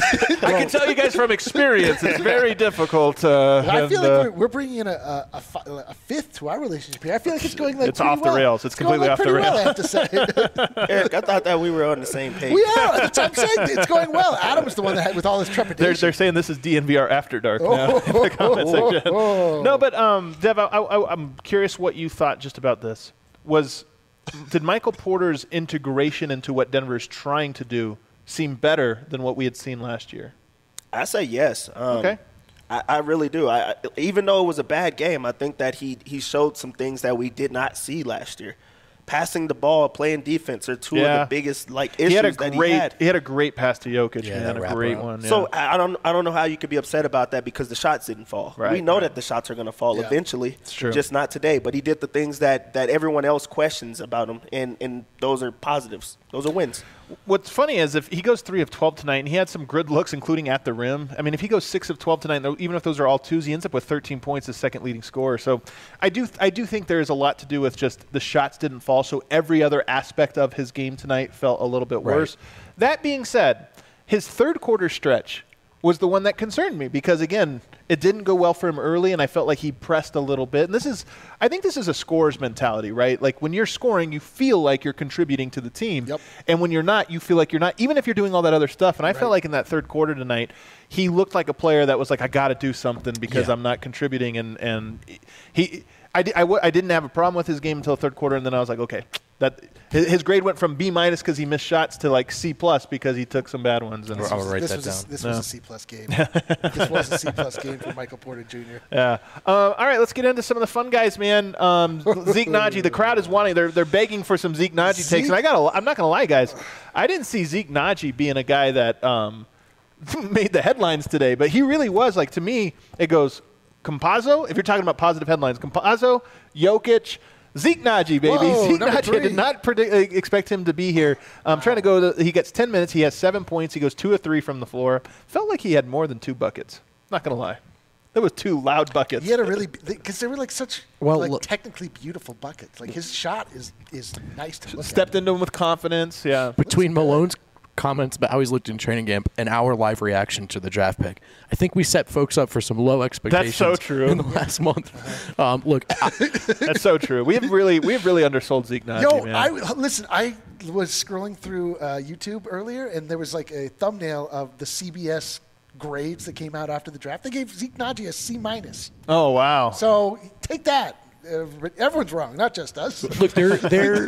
I can tell you guys from experience, it's very difficult. Uh, I and, feel like uh, we're, we're bringing in a, a, a, fi- a fifth to our relationship here. I feel like it's going like it's pretty off the well. rails. It's, it's completely going, off like, the pretty rails. well, I have to say. Eric, I thought that we were on the same page. We are. That's what I'm saying. It's going well. Adam's the one that had with all his trepidation. They're, they're saying this is D N V R After Dark now oh, in the comment oh, section. oh. No, but um, Dev, I, I, I'm curious what you thought just about this. Was did Michael Porter's integration into what Denver's trying to do seem better than what we had seen last year? I say yes. Um, okay. I, I really do. I, I, even though it was a bad game, I think that he he showed some things that we did not see last year. Passing the ball, playing defense are two yeah. of the biggest like issues he had a that great, he had. He had a great pass to Jokic, yeah, man, a great one. Yeah. So I don't I don't know how you could be upset about that because the shots didn't fall. Right, we know right. that the shots are going to fall yeah. eventually. It's true. Just not today. But he did the things that, that everyone else questions about him, and, and those are positives. Those are wins. What's funny is if he goes three of twelve tonight, and he had some good looks, including at the rim. I mean, if he goes six of twelve tonight, even if those are all twos, he ends up with thirteen points as second leading scorer. So I do I do think there is a lot to do with just the shots didn't fall, so every other aspect of his game tonight felt a little bit worse. Right. That being said, his third quarter stretch was the one that concerned me because, again, it didn't go well for him early, and I felt like he pressed a little bit. And this is – I think this is a scorer's mentality, right? Like, when you're scoring, you feel like you're contributing to the team. Yep. And when you're not, you feel like you're not, even if you're doing all that other stuff. And I right. felt like in that third quarter tonight, he looked like a player that was like, I got to do something because yeah. I'm not contributing. And, and he – I, I, w- I didn't have a problem with his game until the third quarter, and then I was like, okay, that his, his grade went from B minus because he missed shots to like C plus because he took some bad ones. And I'll write this that was down. A, this no. was a C plus game. This was a C plus game for Michael Porter Junior Yeah. Uh, all right, let's get into some of the fun guys, man. Um, Zeke Naji, the crowd is wanting. They're they're begging for some Zeke Naji Zeke? takes, and I got. I'm not gonna lie, guys. I didn't see Zeke Naji being a guy that um, made the headlines today, but he really was. Like to me, it goes. Campazzo, if you're talking about positive headlines, Campazzo, Jokic, Zeke Naji, baby. Whoa, Zeke number Naji, I did three. not predict, uh, expect him to be here. I'm trying to go. To, he gets ten minutes. He has seven points. He goes two or three from the floor. Felt like he had more than two buckets. Not going to lie. There was two loud buckets. He had a really because they were like such Well, like look- technically beautiful buckets. Like his shot is is nice to look Stepped at. into him with confidence. Yeah. Between Malone's comments about how he's looked in training camp and our live reaction to the draft pick, I think we set folks up for some low expectations. so true. In the last month, um, look, I, That's so true. We have really, we have really undersold Zeke Naji, Yo, man. I listen. I was scrolling through uh, YouTube earlier, and there was like a thumbnail of the C B S grades that came out after the draft. They gave Zeke Naji a C minus. oh wow. So take that. Uh, everyone's wrong, not just us. look, they're, they're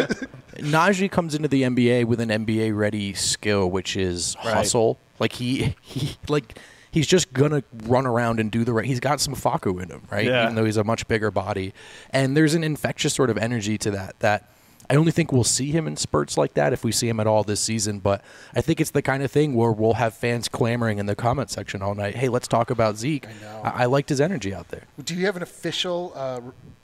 Najee comes into the N B A with an N B A ready skill, which is Right. hustle. Like he, he, like he's just gonna run around and do the right. He's got some Facu in him, right? Yeah. Even though he's a much bigger body, and there's an infectious sort of energy to that. That I only think we'll see him in spurts like that if we see him at all this season. But I think it's the kind of thing where we'll have fans clamoring in the comment section all night. Hey, let's talk about Zeke. I know. I, I liked his energy out there. Do you have an official uh,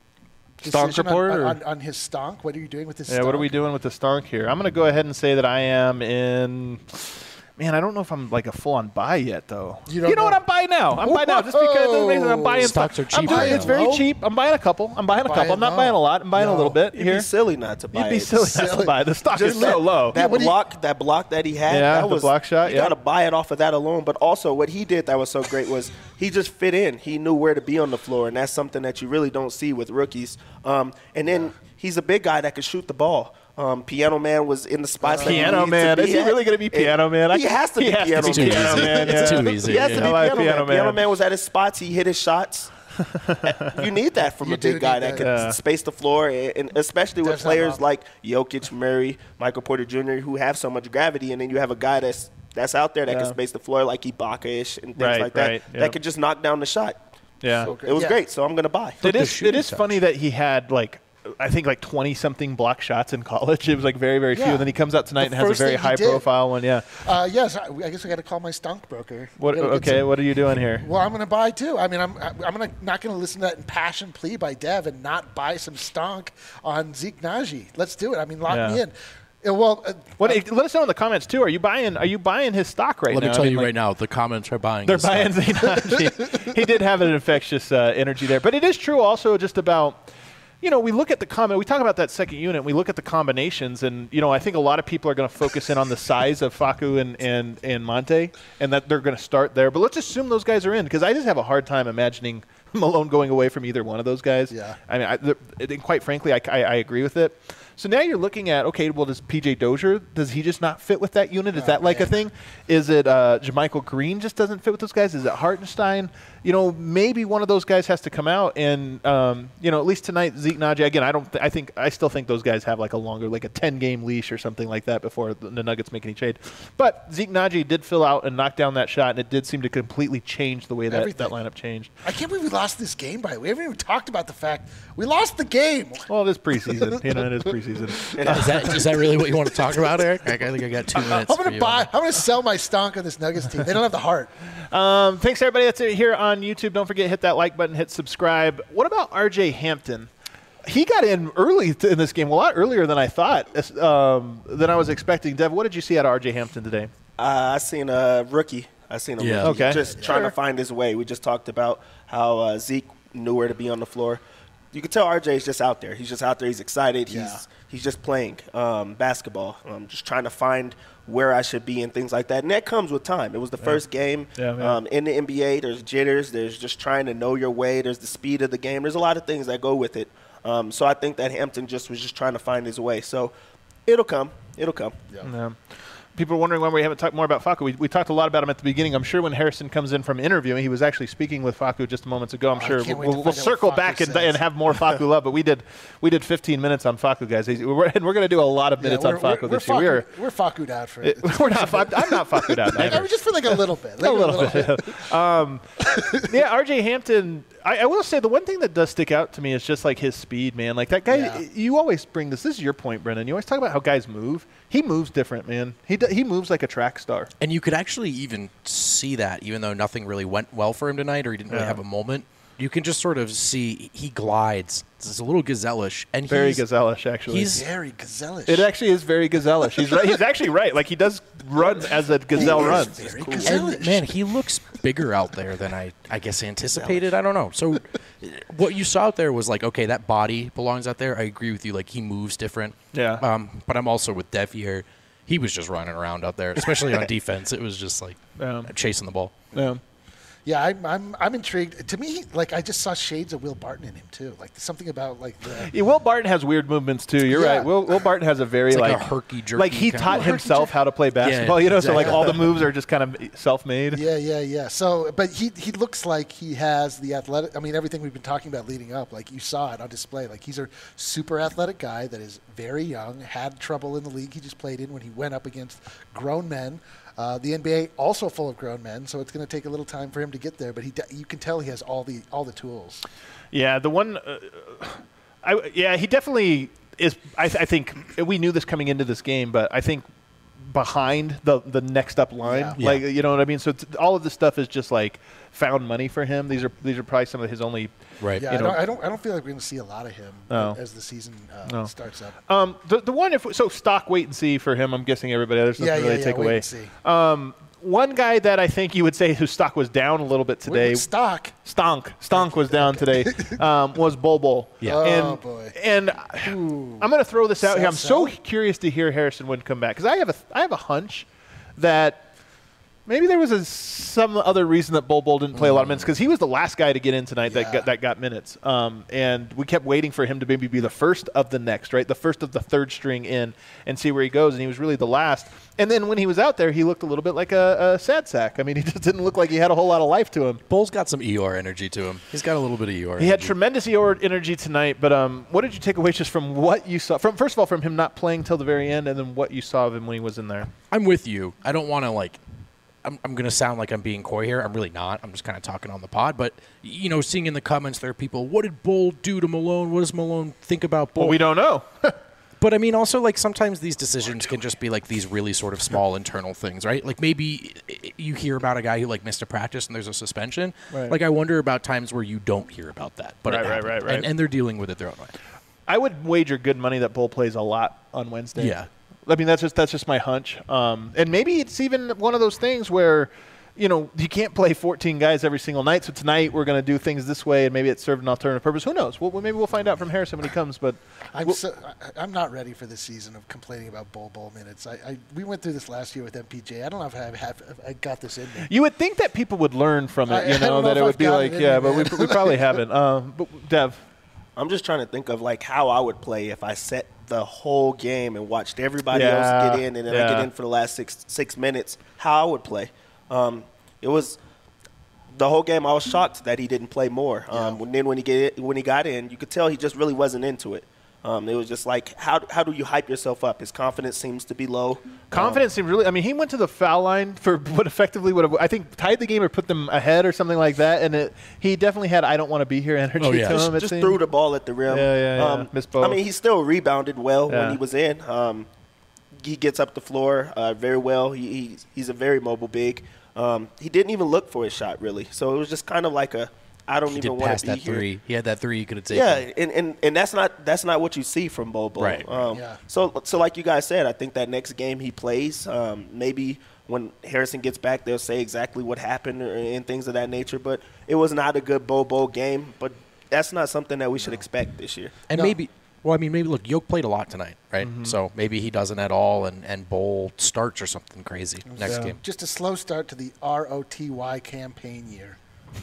Stonk decision report, on, or- on, on his stonk? What are you doing with his Yeah, stonk? what are we doing with the stonk here? I'm going to go ahead and say that I am in. Man, I don't know if I'm like a full-on buy yet, though. You don't know, know. what? I'm buying now. I'm buying now just because of the reason I'm buying Stocks stuff. are cheap I'm buying, right it's now. very Low? cheap. I'm buying a couple. I'm buying a couple. I'm not Buying buying a low. lot. I'm buying a No. little bit It'd here. be silly not to buy You'd be it. silly not to Silly. buy. The stock Just is so that- low. That what do you- block, that block that he had, Yeah, that the was block shot, You yeah. got to buy it off of that alone. But also, what he did that was so great was he just fit in. He knew where to be on the floor, and that's something that you really don't see with rookies. Um, and then he's a big guy that can shoot the ball. Um, Piano Man was in the spots that he Piano needed Man. to be Is he at. really going to be Piano Man? I- He has to he be has to Piano be It's too Piano easy. Man. It's yeah. too easy. He has to Yeah. be I like Piano, Piano Man. Man. Piano Man was at his spots. He hit his shots. You need that from You a do big guy need that that. can Yeah. space the floor, and and especially with Does have players up. like Jokic, Murray, Michael Porter Junior, who have so much gravity, and then you have a guy that's that's out there that Yeah. can space the floor like Ibaka-ish and things Right, like that, right, that yep. can just knock down the shot. Yeah. So It was Yeah. great, so I'm gonna buy. It the is. It shooting is touch. funny that he had like, I think like twenty something block shots in college. It was like very very few, Yeah. and then he comes out tonight The and has a first very thing he high did. profile one. Yeah. Uh, yes, I, I guess I got to call my stunk broker. What? We gotta get Okay. some- What are you doing here? Well, I'm going to buy too. I mean, I'm I'm gonna not going to listen to that impassioned plea by Dev and not buy some stonk on Zeke Naji. Let's do it. I mean, lock Yeah. me in. Uh, Well, uh, What? uh, let us know in the comments too. Are you buying? Are you buying his stock right Let now? me tell I mean, you like, right now, the comments are buying. They're this buying stuff. Zainaji. He did have an infectious uh, energy there. But it is true also just about, you know, we look at the comment, we talk about that second unit, we look at the combinations, and, you know, I think a lot of people are going to focus in on the size of Facu and, and, and Monte, and that they're going to start there. But let's assume those guys are in, because I just have a hard time imagining Malone going away from either one of those guys. Yeah. I mean, I, the, and quite frankly, I, I, I agree with it. So now you're looking at, okay, well, does P J Dozier, does he just not fit with that unit? Is Oh, that like a man. thing? Is it uh, Jermichael Green just doesn't fit with those guys? Is it Hartenstein? You know, maybe one of those guys has to come out, and um, you know, at least tonight, Zeke Naji. Again, I don't. Th- I think I still think those guys have like a longer, like a ten game leash or something like that before the, the Nuggets make any trade. But Zeke Naji did fill out and knock down that shot, and it did seem to completely change the way that, that Everything. lineup changed. I can't believe we lost this game. By the way, we haven't even talked about the fact we lost the game. Well, it is preseason. you know, it is preseason. Is that is that really what you want to talk about, Eric? I think I got two minutes. I'm for gonna you. buy. I'm gonna sell my stonk on this Nuggets team. They don't have the heart. Um, thanks, everybody. That's it here on YouTube. Don't forget, hit that like button, hit subscribe. What about R J Hampton? He got in early t- in this game, a lot earlier than I thought, as- um, than I was expecting. Dev, what did you see out of R J Hampton today? Uh, I seen a rookie. I seen a Yeah. rookie Okay. just trying to find his way. We just talked about how uh, Zeke knew where to be on the floor. You can tell R J's just out there. He's just out there. He's excited. Yeah. He's he's just playing um, basketball. Um, just trying to find where I should be and things like that. And that comes with time. It was the first game Yeah, yeah. um, in the N B A. There's jitters. There's just trying to know your way. There's the speed of the game. There's a lot of things that go with it. Um, so I think that Hampton just was just trying to find his way. So it'll come. It'll come. Yeah. People are wondering why we haven't talked more about Facu. We, we talked a lot about him at the beginning. I'm sure when Harrison comes in from interviewing, he was actually speaking with Facu just moments ago. I'm Oh, I sure can't wait we'll, to we'll find out circle what back Facu and, says. and have more Facu love. But we did we did fifteen minutes on Facu, guys. We're, and we're going to do a lot of minutes Yeah, on Facu we're, this we're year. Facu- we're Facu'd out for It, it. we're not. Fac- I'm not Facu'd out. I either. mean, just for like a little bit. Like a little bit. um, yeah, R J Hampton. I, I will say the one thing that does stick out to me is just like his speed, man. Like that guy. Yeah. You always bring this. This is your point, Brennan. You always talk about how guys move. He moves different, man. He d- he moves like a track star. And you could actually even see that, even though nothing really went well for him tonight, or he didn't really Yeah. have a moment. You can just sort of see he glides. It's a little gazelle-ish, and Very he's, gazelle-ish, actually. he's- Very gazelle-ish. It actually is very gazelle-ish. He's right. He's actually right. Like he does run as a gazelle He is runs. very And gazelle-ish. man, he looks bigger out there than I, I guess, anticipated. I don't know. So, what you saw out there was like, okay, that body belongs out there. I agree with you. Like, he moves different. Yeah. Um, but I'm also with Dev here. He was just running around out there, especially on defense. It was just like Yeah. chasing the ball. Yeah. Yeah, I'm, I'm I'm intrigued. To me, like I just saw shades of Will Barton in him too. Like something about like the Yeah, Will Barton has weird movements too. You're Yeah. right. Will, Will Barton has a very It's like like, a herky-jerky like he kind taught of- himself how to play basketball. you know, so like exactly. all the moves are just kind of self-made. yeah, yeah, yeah. So, but he he looks like he has the athletic. I mean, everything we've been talking about leading up, like you saw it on display. Like he's a super athletic guy that is very young. Had trouble in the league he just played in when he went up against grown men. Uh, the N B A also full of grown men, so it's going to take a little time for him to get there. But he, de- you can tell he has all the all the tools. Yeah, the one, uh, I yeah, he definitely is. I, th- I think we knew this coming into this game, but I think behind the the next up line, Yeah. like you know what I mean. So it's, all of this stuff is just like found money for him. These are these are probably some of his only. Right. Yeah, You I, know- don't, I don't I don't feel like we're going to see a lot of him No. as the season uh, No. starts up. Um, the the one if so stock wait and see for him. I'm guessing everybody. There's nothing Yeah, yeah, really yeah, take wait away. and see. Um, one guy that I think you would say whose stock was down a little bit Wait, today. with stock. Stonk. Stonk was down today. Um, was Bol Bol. Yeah. Oh, and, boy. And Ooh. I'm going to throw this out here. I'm Sell, so sell? curious to hear Harrison Wind come back because I have a I have a hunch that maybe there was a, some other reason that Bol Bol didn't play a lot of minutes because he was the last guy to get in tonight that Yeah. got, that got minutes. Um, and we kept waiting for him to maybe be the first of the next, right? The first of the third string in and see where he goes. And he was really the last. And then when he was out there, he looked a little bit like a, a sad sack. I mean, he just didn't look like he had a whole lot of life to him. Bull's got some Eeyore energy to him. He's got a little bit of Eeyore. He had energy. tremendous Eeyore energy tonight, but um, what did you take away just from what you saw? From first of all, from him not playing till the very end, and then what you saw of him when he was in there. I'm with you. I don't want to like I'm, I'm going to sound like I'm being coy here. I'm really not. I'm just kind of talking on the pod. But, you know, seeing in the comments there are people, what did Bull do to Malone? What does Malone think about Bull? Well, we don't know. But, I mean, also, like, sometimes these decisions can just be, like, these really sort of small internal things, right? Like, maybe you hear about a guy who, like, missed a practice and there's a suspension. Right. Like, I wonder about times where you don't hear about that. But it Right, right, happened. right, right. And, and they're dealing with it their own way. I would wager good money that Bull plays a lot on Wednesday. Yeah. I mean, that's just that's just my hunch. Um, and maybe it's even one of those things where, you know, you can't play fourteen guys every single night. So tonight we're going to do things this way, and maybe it served an alternative purpose. Who knows? Well, maybe we'll find out from Harrison when he comes. But I'm we'll, so, I- I'm not ready for this season of complaining about Bull Bull minutes. I, I we went through this last year with M P J. I don't know if I have, have if I got this in me. you would think that people would learn from it, I- you I know, don't know that if it would I've be got like, it in yeah, me, but we, man. we probably haven't. Um, but Dev, I'm just trying to think of like how I would play if I set the whole game and watched everybody Yeah, else get in, and then I yeah. get in for the last six six minutes. How I would play. Um, it was the whole game. I was shocked that he didn't play more. Um, and then when he get when he got in, you could tell he just really wasn't into it. Um, it was just like, how how do you hype yourself up? His confidence seems to be low. confidence seemed really. I mean, he went to the foul line for what effectively would have, I think, tied the game or put them ahead or something like that. And it, he definitely had "I don't want to be here" energy Oh, yeah. to Just, him. it just seemed. threw the ball at the rim. Yeah, yeah, yeah. Um, Missed both. I mean, he still rebounded well Yeah. when he was in. Um, he gets up the floor uh, very well. He, he's, he's a very mobile big. Um, he didn't even look for his shot, really. So it was just kind of like a, I don't He even did want pass to be that here. three. He had that three you could have taken. Yeah, and, and, and that's not that's not what you see from Bobo. Right. Um, Yeah. So so like you guys said, I think that next game he plays, um, maybe when Harrison gets back, they'll say exactly what happened or, and things of that nature. But it was not a good Bobo game. But that's not something that we should expect this year. And No. maybe, well, I mean, maybe, look, Yoke played a lot tonight, right? Mm-hmm. So maybe he doesn't at all, and, and Bowl starts or something crazy next Yeah. game. Just a slow start to the R O T Y campaign year.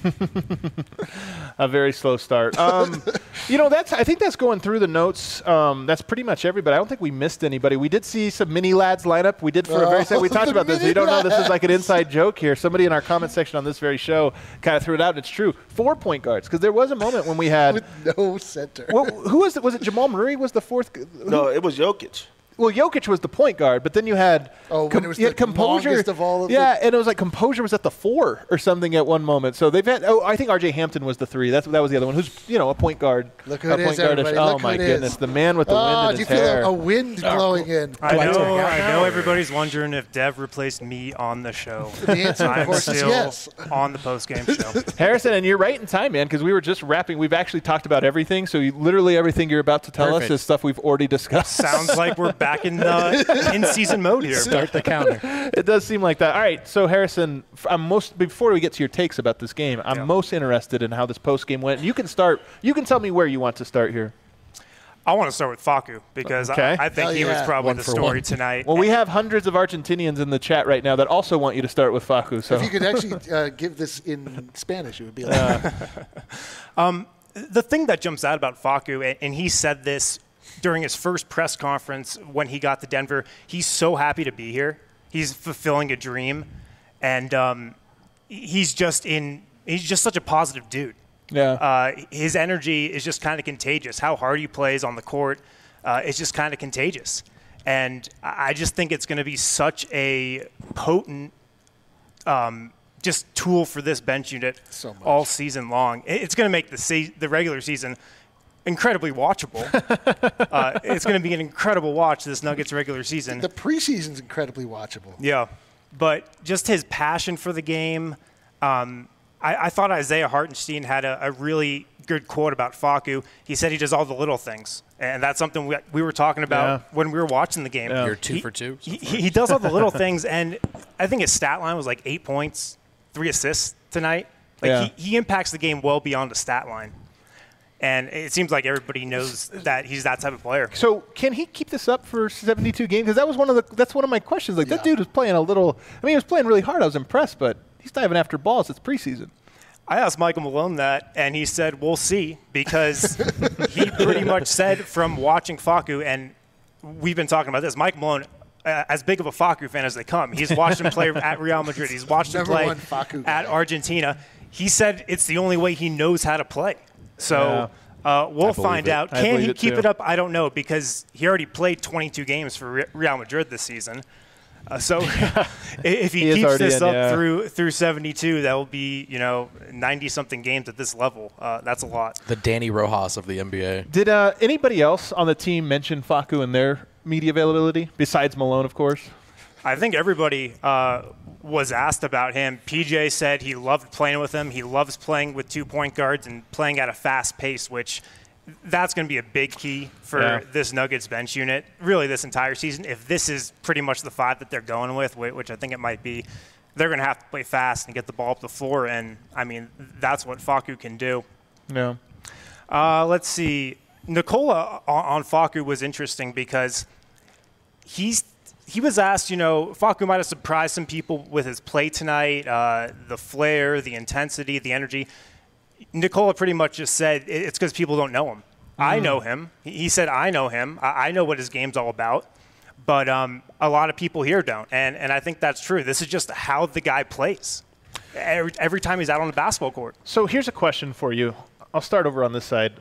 A very slow start. Um, you know, that's. I think that's going through the notes. Um, that's pretty much everybody. I don't think we missed anybody. We did see some mini lads line up. We did for a very second. We Oh, talked the about this. mini You don't know this is lads. like an inside joke here. Somebody in our comment section on this very show kind of threw it out. And it's true. Four point guards, because there was a moment when we had. With no center. well, who was it? Was it Jamal Murray? Was the fourth? g- who- No, it was Jokic. Well, Jokic was the point guard, but then you had Oh, when it was you had the composure. longest of all of yeah, the- and it was like composure was at the four or something at one moment. So they've had. Oh, I think R J Hampton was the three. That's that was the other one. Who's you know a point guard. Look who a it is, point guard-ish- everybody. Oh Look who my it is. goodness, the man with the wind Oh, in do you his feel hair. a, a wind blowing in? I Like know, to- I know everybody's wondering if Dev replaced me on the show. The answer, of I'm course, is still yes. on the post-game show. Harrison, and you're right in time, man, because we were just wrapping. We've actually talked about everything. So you, literally everything you're about to tell Perfect. us is stuff we've already discussed. Sounds like we're back in the in-season mode here. Start the counter. It does seem like that. All right, so Harrison, f- I'm most before we get to your takes about this game, I'm Yeah. most interested in how this post game went. You can start. You can tell me where you want to start here. I want to start with Facu because Okay. I, I think Hell he was yeah. probably One the for story one. tonight. Well, we have hundreds of Argentinians in the chat right now that also want you to start with Facu. So If you could actually uh, give this in Spanish, it would be like The thing that jumps out about Facu, and, and he said this during his first press conference when he got to Denver, he's so happy to be here. He's fulfilling a dream, and um, he's just in. He's just such a positive dude. yeah, Uh, his energy is just kind of contagious. How hard he plays on the court uh, is just kind of contagious. And I I just think it's going to be such a potent um, just tool for this bench unit So much. all season long. It- It's going to make the se- the regular season incredibly watchable. uh, it's going to be an incredible watch, this Nuggets regular season. the preseason's incredibly watchable. Yeah, but just his passion for the game. Um, I, I thought Isaiah Hartenstein had a, a really good quote about Facu. He said he does all the little things, and that's something we, we were talking about Yeah. when we were watching the game. Yeah. You're two He- for two. He, he does all the little things, and I think his stat line was like eight points, three assists tonight. Like Yeah. he, he impacts the game well beyond the stat line. And it seems like everybody knows that he's that type of player. So can he keep this up for seventy-two games? Because that was one of the. That's one of my questions. Like that Yeah. dude was playing a little. I mean, he was playing really hard. I was impressed, but he's diving after balls. It's preseason. I asked Michael Malone that, and he said, we'll see, because he pretty much said from watching Facu, and we've been talking about this, Mike Malone, uh, as big of a Facu fan as they come, he's watched him play at Real Madrid. He's watched him Number play one Facu guy. at Argentina. He said it's the only way he knows how to play. So uh, we'll believe find it. out. I Can believe he it keep too. it up? I don't know, because he already played twenty-two games for Re- Real Madrid this season. Uh, so if he, He is keeps already this in, up yeah. through through seventy-two, that will be, you know, ninety-something games at this level. Uh, that's a lot. The Danny Rojas of the N B A. Did uh, anybody else on the team mention Facu in their media availability, besides Malone, of course? I think everybody uh, was asked about him. P J said he loved playing with him. He loves playing with two point guards and playing at a fast pace, which that's going to be a big key for Yeah. this Nuggets bench unit, really this entire season. If this is pretty much the five that they're going with, whi- which I think it might be, they're going to have to play fast and get the ball up the floor. And, I mean, that's what Facu can do. No. Uh, let's see. Nikola on, on Facu was interesting because he's he was asked, you know, Facu might have surprised some people with his play tonight, uh, the flair, the intensity, the energy. Nikola pretty much just said it- it's because people don't know him. I know him. He he said, I know him. I, I know what his game's all about. But um, a lot of people here don't. And, and I think that's true. This is just how the guy plays every, every time he's out on the basketball court. So here's a question for you. I'll start over on this side.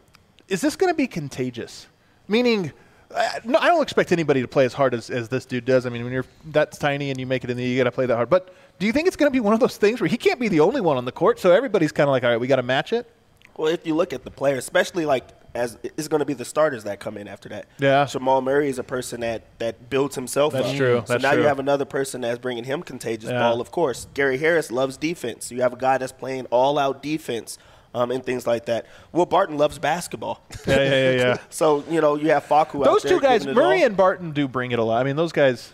Is this going to be contagious? Meaning, I, no, I don't expect anybody to play as hard as, as this dude does. I mean, when you're that tiny and you make it in the, you got to play that hard. But do you think it's going to be one of those things where he can't be the only one on the court, so everybody's kind of like, all right, we got to match it? Well, if you look at the players, especially like as it's going to be the starters that come in after that. Yeah. Jamal Murray is a person that, that builds himself That's up. true. So That's now true. you have another person that's bringing him contagious Yeah. ball, of course. Gary Harris loves defense. You have a guy that's playing all-out defense um, and things like that. Will Barton loves basketball. Yeah, yeah, yeah, yeah. So, you know, you have Facu out Those there two guys, giving it Murray all. and Barton, do bring it a lot. I mean, those guys,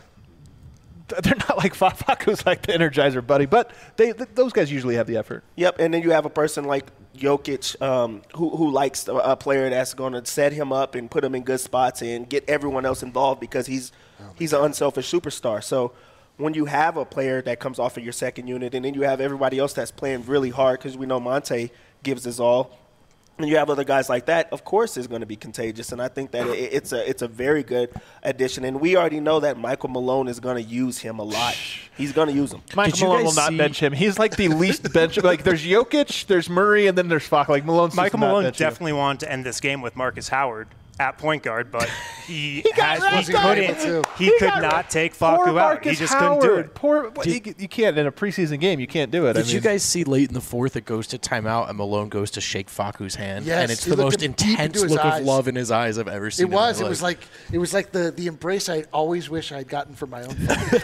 th- they're not like Fa- Facu's like the Energizer buddy, but they th- those guys usually have the effort. Yep, and then you have a person like Jokic um, who, who likes a, a player that's going to set him up and put him in good spots and get everyone else involved because he's he's an unselfish superstar. So when you have a player that comes off of your second unit and then you have everybody else that's playing really hard because we know Monte gives his all, and you have other guys like that, of course it's going to be contagious. And I think that it, it's a it's a very good addition. And we already know that Michael Malone is going to use him a lot. He's going to use him. Michael you Malone will guys not see- bench him. He's like the least bench. Like there's Jokic, there's Murray, and then there's Facu. Like Malone's Michael just not Malone benching him. definitely wanted to end this game with Marcus Howard at point guard, but he, got has, right he on couldn't. it. He, He could got not right. take Poor Facu out. Marcus He just Howard. couldn't do it. Poor, well, you, you can't in a preseason game. You can't do it. Did I you mean, guys see late in the fourth it goes to timeout and Malone goes to shake Facu's hand? Yes, and it's he the looked most him deep into intense his look eyes. of love in his eyes I've ever seen. It was. in It my was life. like it was like the, the embrace I always wish I'd gotten from my own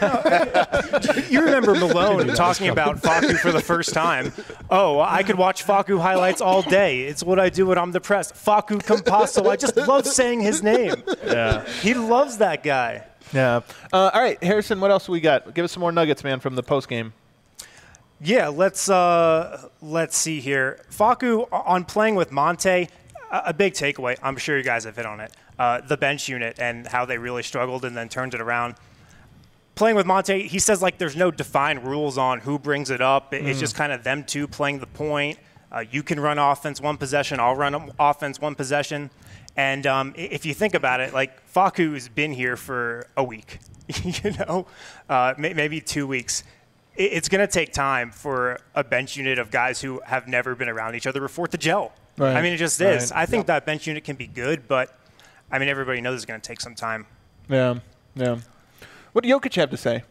family. You remember Malone talking about Facu for the first time. Oh, I could watch Facu highlights all day. It's what I do when I'm depressed. Facu Campasso. I just love saying his name. yeah, He loves that guy. yeah. Uh, all right, Harrison. What else we got? Give us some more nuggets, man, from the post game. Yeah, let's uh, let's see here. Facu on playing with Monte, a, a big takeaway. I'm sure you guys have hit on it. Uh, the bench unit and how they really struggled and then turned it around. Playing with Monte, he says like there's no defined rules on who brings it up. It- It's just kind of them two playing the point. Uh, you can run offense one possession. I'll run offense one possession. And um, i- if you think about it, like Facu's been here for a week, you know, uh, may- maybe two weeks. I- It's going to take time for a bench unit of guys who have never been around each other before to gel. Right. I mean, it just Right. is. I think that bench unit can be good, but I mean, everybody knows it's going to take some time. Yeah, yeah. What did Jokic have to say?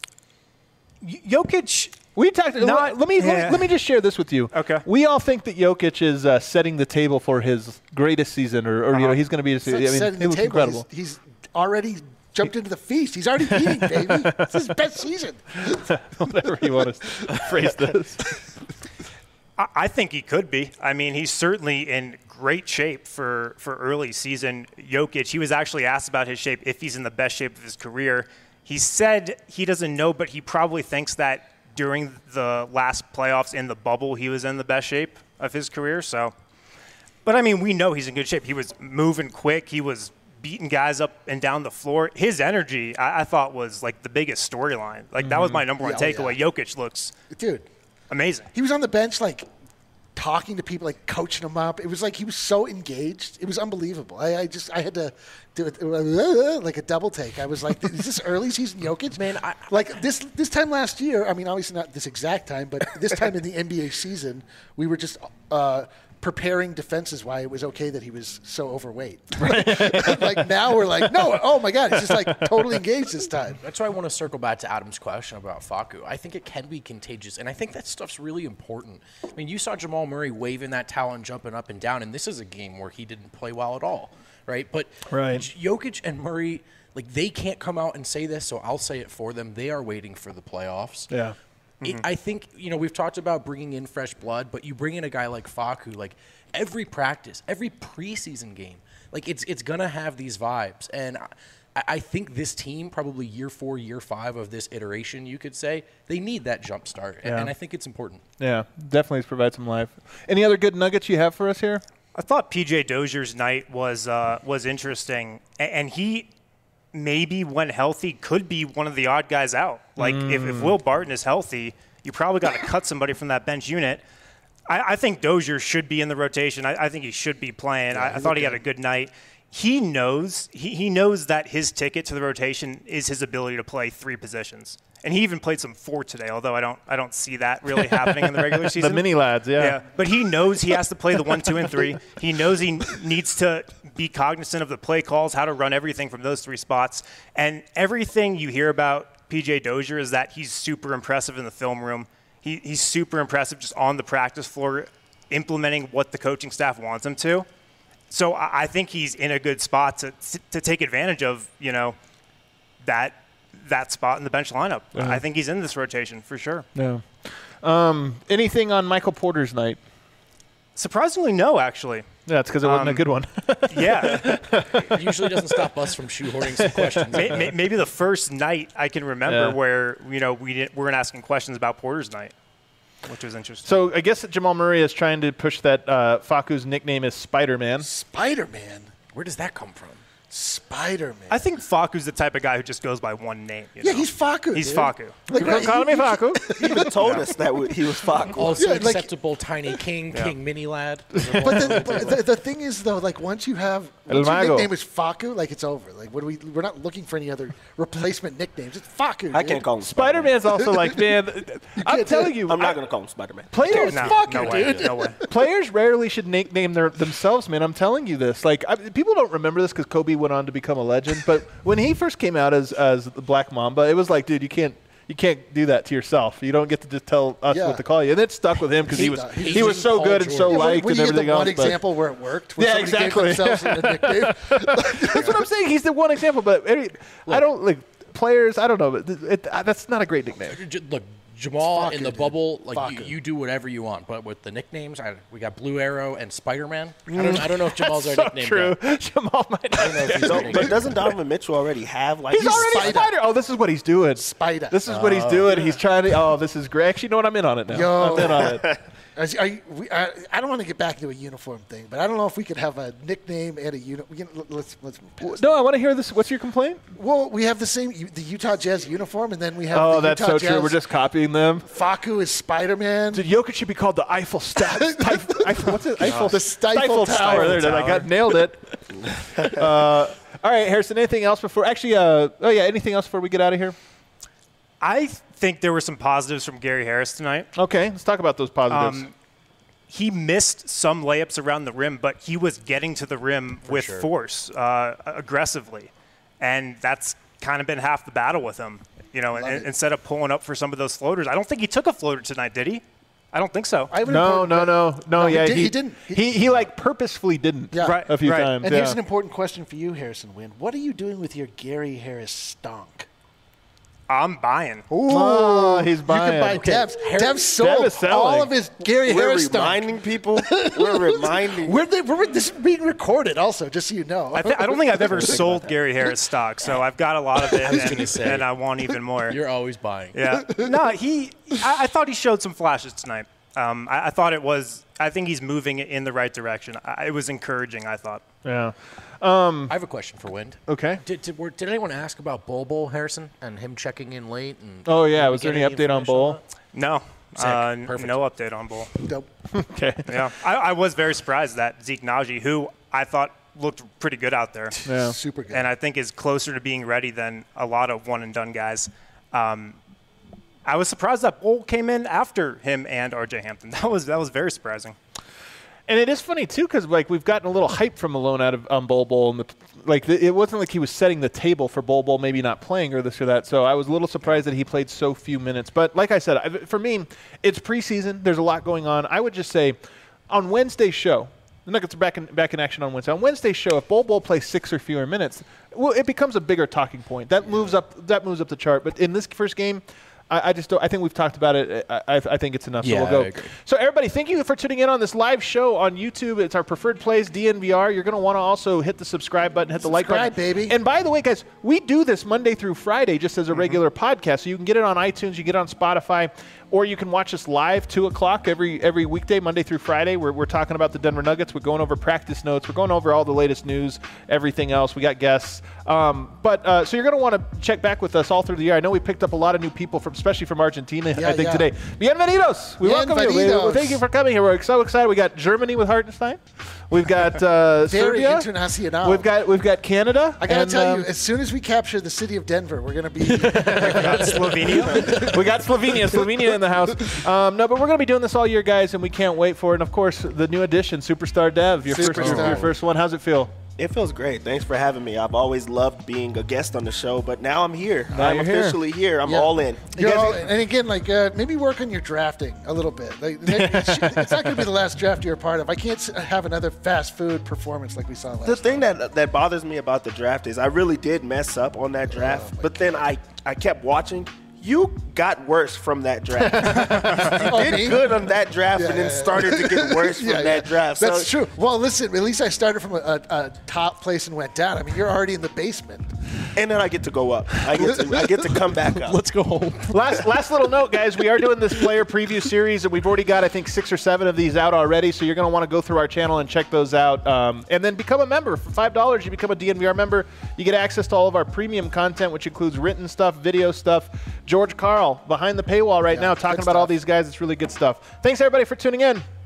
Y- Jokic, We talked. Not- let me let me, yeah. let me just share this with you. Okay. We all think that Jokic is uh, setting the table for his greatest season, or, or you know, Uh-huh. he's going to be. I It's like mean, setting it the was table. incredible. He's, he's already jumped into the feast. He's already eating, baby. It's his best season. Whatever you want to phrase this. I, I think he could be. I mean, he's certainly in great shape for, for early season Jokic. He was actually asked about his shape, if he's in the best shape of his career. He said he doesn't know, but he probably thinks that during the last playoffs in the bubble, he was in the best shape of his career. So, but I mean, we know he's in good shape. He was moving quick. He was beating guys up and down the floor. His energy, I, I thought, was like the biggest storyline. Like that was my number one Yeah, oh, takeaway. yeah. Jokic looks Dude, amazing. he was on the bench, like, talking to people, like, coaching them up. It was like he was so engaged. It was unbelievable. I, I just, I had to do it, like a double take. I was like, is this early season Jokic? Man, I- like, this this time last year, I mean, obviously not this exact time, but this time in the N B A season, we were just uh, preparing defenses why it was okay that he was so overweight. Like now we're like, no, oh my God, he's just like totally engaged this time. That's why I want to circle back to Adam's question about Facu. I think it can be contagious, and I think that stuff's really important. I mean, you saw Jamal Murray waving that towel and jumping up and down, and this is a game where he didn't play well at all, right? But Right. Jokic and Murray, like, they can't come out and say this, so I'll say it for them. They are waiting for the playoffs. Yeah. It, I think, you know, we've talked about bringing in fresh blood, but you bring in a guy like Facu, like every practice, every preseason game, like it's it's going to have these vibes. And I, I think this team, probably year four, year five of this iteration, you could say, they need that jump start. And, Yeah. and I think it's important. Yeah, definitely provide some life. Any other good nuggets you have for us here? I thought P J Dozier's night was uh, was interesting, A- and he maybe when healthy could be one of the odd guys out. Like if, if Will Barton is healthy, you probably got to cut somebody from that bench unit. I, I think Dozier should be in the rotation. I, I think he should be playing. I, I thought he had a good night. He knows he, he knows that his ticket to the rotation is his ability to play three positions. And he even played some four today, although I don't I don't see that really happening in the regular season. The mini lads, yeah. Yeah, but he knows he has to play the one, two, and three. He knows he needs to be cognizant of the play calls, how to run everything from those three spots. And everything you hear about P J Dozier is that he's super impressive in the film room. He, he's super impressive just on the practice floor, implementing what the coaching staff wants him to. So I, I think he's in a good spot to to take advantage of, you know, that that spot in the bench lineup. Yeah. I think he's in this rotation for sure. Yeah. Um, anything on Michael Porter's night? Surprisingly, no, actually. Yeah, it's because it wasn't Um, a good one. Yeah. It usually doesn't stop us from shoehorning some questions. May- may- Maybe the first night I can remember Yeah. where, you know, we didn't, weren't asking questions about Porter's night, which was interesting. So I guess that Jamal Murray is trying to push that uh, Facu's nickname is Spider-Man. Spider-Man. Where does that come from? Spider-Man. I think Facu's the type of guy who just goes by one name. You yeah, know? he's Facu. He's dude. Facu. Like, Call, call me Facu. He even told us that w- he was Facu. Also Yeah, like- acceptable Tiny King, King Mini Lad. But, the, but the, the thing is, though, like once you have El once your Mago. nickname is Facu, like it's over. Like what do we? We're not looking for any other replacement nicknames. It's Facu. I dude. can't call him Spider-Man. Spider-Man's also like, man, I'm can't telling do you. I'm not I- going to call him Spider-Man. Players, No, Facu, no way, dude. no way. players rarely should nickname their themselves, man. I'm telling you this. Like, I, people don't remember this because Kobe went on to become a legend. But when he first came out as as the Black Mamba, it was like, dude, you can't you can't do that to yourself. You don't get to just tell us Yeah. what to call you. And it stuck with him because he, He was does. he, He's was so Paul good and so George. Yeah, liked when and you get everything the else. one but- example where it worked, where Yeah, somebody exactly. gave themselves a nickname. That's what I'm saying. He's the one example. But any, I don't like players. I don't know. But it, it, that's not a great nickname. J- Look, Jamal Facu, in the dude. bubble, like you, Facu. you do whatever you want. But with the nicknames, I, we got Blue Arrow and Spider-Man. I don't, I don't know if Jamal's our so nickname true. guy. Jamal might not. I don't know if he's our So, nickname but guy. doesn't Donovan Mitchell already have like He's already Spider. Spider. Oh, this is what he's doing. Spider. This is what he's doing. He's trying to. Oh, this is great. Actually, you know what? I'm in on it now. Yo. I'm in on it. As- I, we, I, I don't want to get back into a uniform thing, but I don't know if we could have a nickname and a uniform. Let's let's. Pass. No, I want to hear this. What's your complaint? Well, we have the same the Utah Jazz uniform, and then we have. Oh, the that's Utah so Jazz. true. We're just copying them. Facu is Spider-Man. Dude, Jokic should be called the Eiffel Stat. Eiffel, what's it? Eiffel, The Stifle Tower. Tower. There it is. I got nailed it. uh, all right, Harrison. Anything else before? Actually, uh, oh yeah. Anything else before we get out of here? I think there were some positives from Gary Harris tonight. Okay, let's talk about those positives. Um, he missed some layups around the rim, but he was getting to the rim with sure. force, uh, aggressively. And that's kind of been half the battle with him. You know, and, it. instead of pulling up for some of those floaters. I don't think he took a floater tonight, did he? I don't think so. I have an no, important- no, no, no, No, he Yeah, did- he didn't. He- He, he like purposefully didn't. Yeah. Right. A few right. times. And yeah. here's an important question for you, Harrison Wynn. What are you doing with your Gary Harris stonk? I'm buying. Oh, he's buying. You can buy Okay. Dev's. Dev's sold Dev is selling. all of his Gary we're Harris stonk. reminding people. We're reminding. We're, the, we're this is being recorded also, just so you know. I, th- I don't think I've ever sold Gary Harris stock, so I've got a lot of it, was and, gonna say. and I want even more. You're always buying. Yeah. No, he. I, I thought he showed some flashes tonight. Um, I, I thought it was. I think he's moving in the right direction. I, it was encouraging. I thought. Yeah. I have a question for Wind. Okay. Did, did, were, did anyone ask about Bol Bol Harrison and him checking in late? And Oh yeah. did we Was there get any update on information Bowl? that? No. Sick. Uh, n- Perfect. no update on Bull. Nope. Okay. Yeah. I, I was very surprised that Zeke Naji, who I thought looked pretty good out there, Yeah. Super good. and I think is closer to being ready than a lot of one and done guys. Um, I was surprised that Bull came in after him and R J Hampton. That was that was very surprising. And it is funny too, because like we've gotten a little hype from Malone out of um, Bol Bol, and the, like the, it wasn't like he was setting the table for Bol Bol maybe not playing or this or that. So I was a little surprised that he played so few minutes. But like I said, I, for me, it's preseason. There's a lot going on. I would just say, on Wednesday's show, the Nuggets are back in back in action on Wednesday. On Wednesday's show, if Bol Bol plays six or fewer minutes, well, it becomes a bigger talking point. That moves up. That moves up the chart. But in this first game, I, I just don't. I think we've talked about it. I, I, I think it's enough. Yeah, so we'll go. I agree. So everybody, thank you for tuning in on this live show on YouTube. It's our preferred plays, D N V R. You're going to want to also hit the subscribe button, hit the like button, Subscribe, baby. And by the way, guys, we do this Monday through Friday just as a regular podcast. So you can get it on iTunes, you get it on Spotify, or you can watch us live two o'clock every every weekday, Monday through Friday. We're we're talking about the Denver Nuggets. We're going over practice notes. We're going over all the latest news, everything else. We got guests. Um, but uh, so you're going to want to check back with us all through the year. I know we picked up a lot of new people from, especially from Argentina. Yeah, I think yeah. today. Bienvenidos. We welcome you. We, Bienvenidos. thank you for coming here. We're so excited. We got Germany with Hartenstein. We've got uh, Very Serbia. internacional. We've got we've got Canada. I gotta and, tell um, you, as soon as we capture the city of Denver, we're gonna be. Slovenia. we got Slovenia, Slovenia in the house. Um, no, but we're going to be doing this all year, guys, and we can't wait for it. And of course, the new addition, Superstar Dev, your first, your, Superstar. your first one. How's it feel? It feels great. Thanks for having me. I've always loved being a guest on the show, but now I'm here. Now I'm you're here. officially here. I'm Yeah. all in. You're guys- all- and again, like uh, maybe work on your drafting a little bit. Like it's it's not going to be the last draft you're a part of. I can't s- have another fast food performance like we saw last. The thing that that bothers me about the draft is I really did mess up on that draft, but then I, I kept watching. You got worse from that draft. you Oh, did me? good on that draft Yeah, and then yeah, yeah. started to get worse from Yeah, that yeah. draft. That's So- true. Well, listen, at least I started from a, a, a top place and went down. I mean, you're already in the basement. And then I get to go up. I get to, I get to come back up. Let's go home. last last little note, guys. We are doing this player preview series, and we've already got, I think, six or seven of these out already. So you're going to want to go through our channel and check those out. Um, and then become a member. For five dollars, you become a D N V R member. You get access to all of our premium content, which includes written stuff, video stuff. George Carl behind the paywall right Yeah, now talking good about all stuff. these guys. It's really good stuff. Thanks, everybody, for tuning in.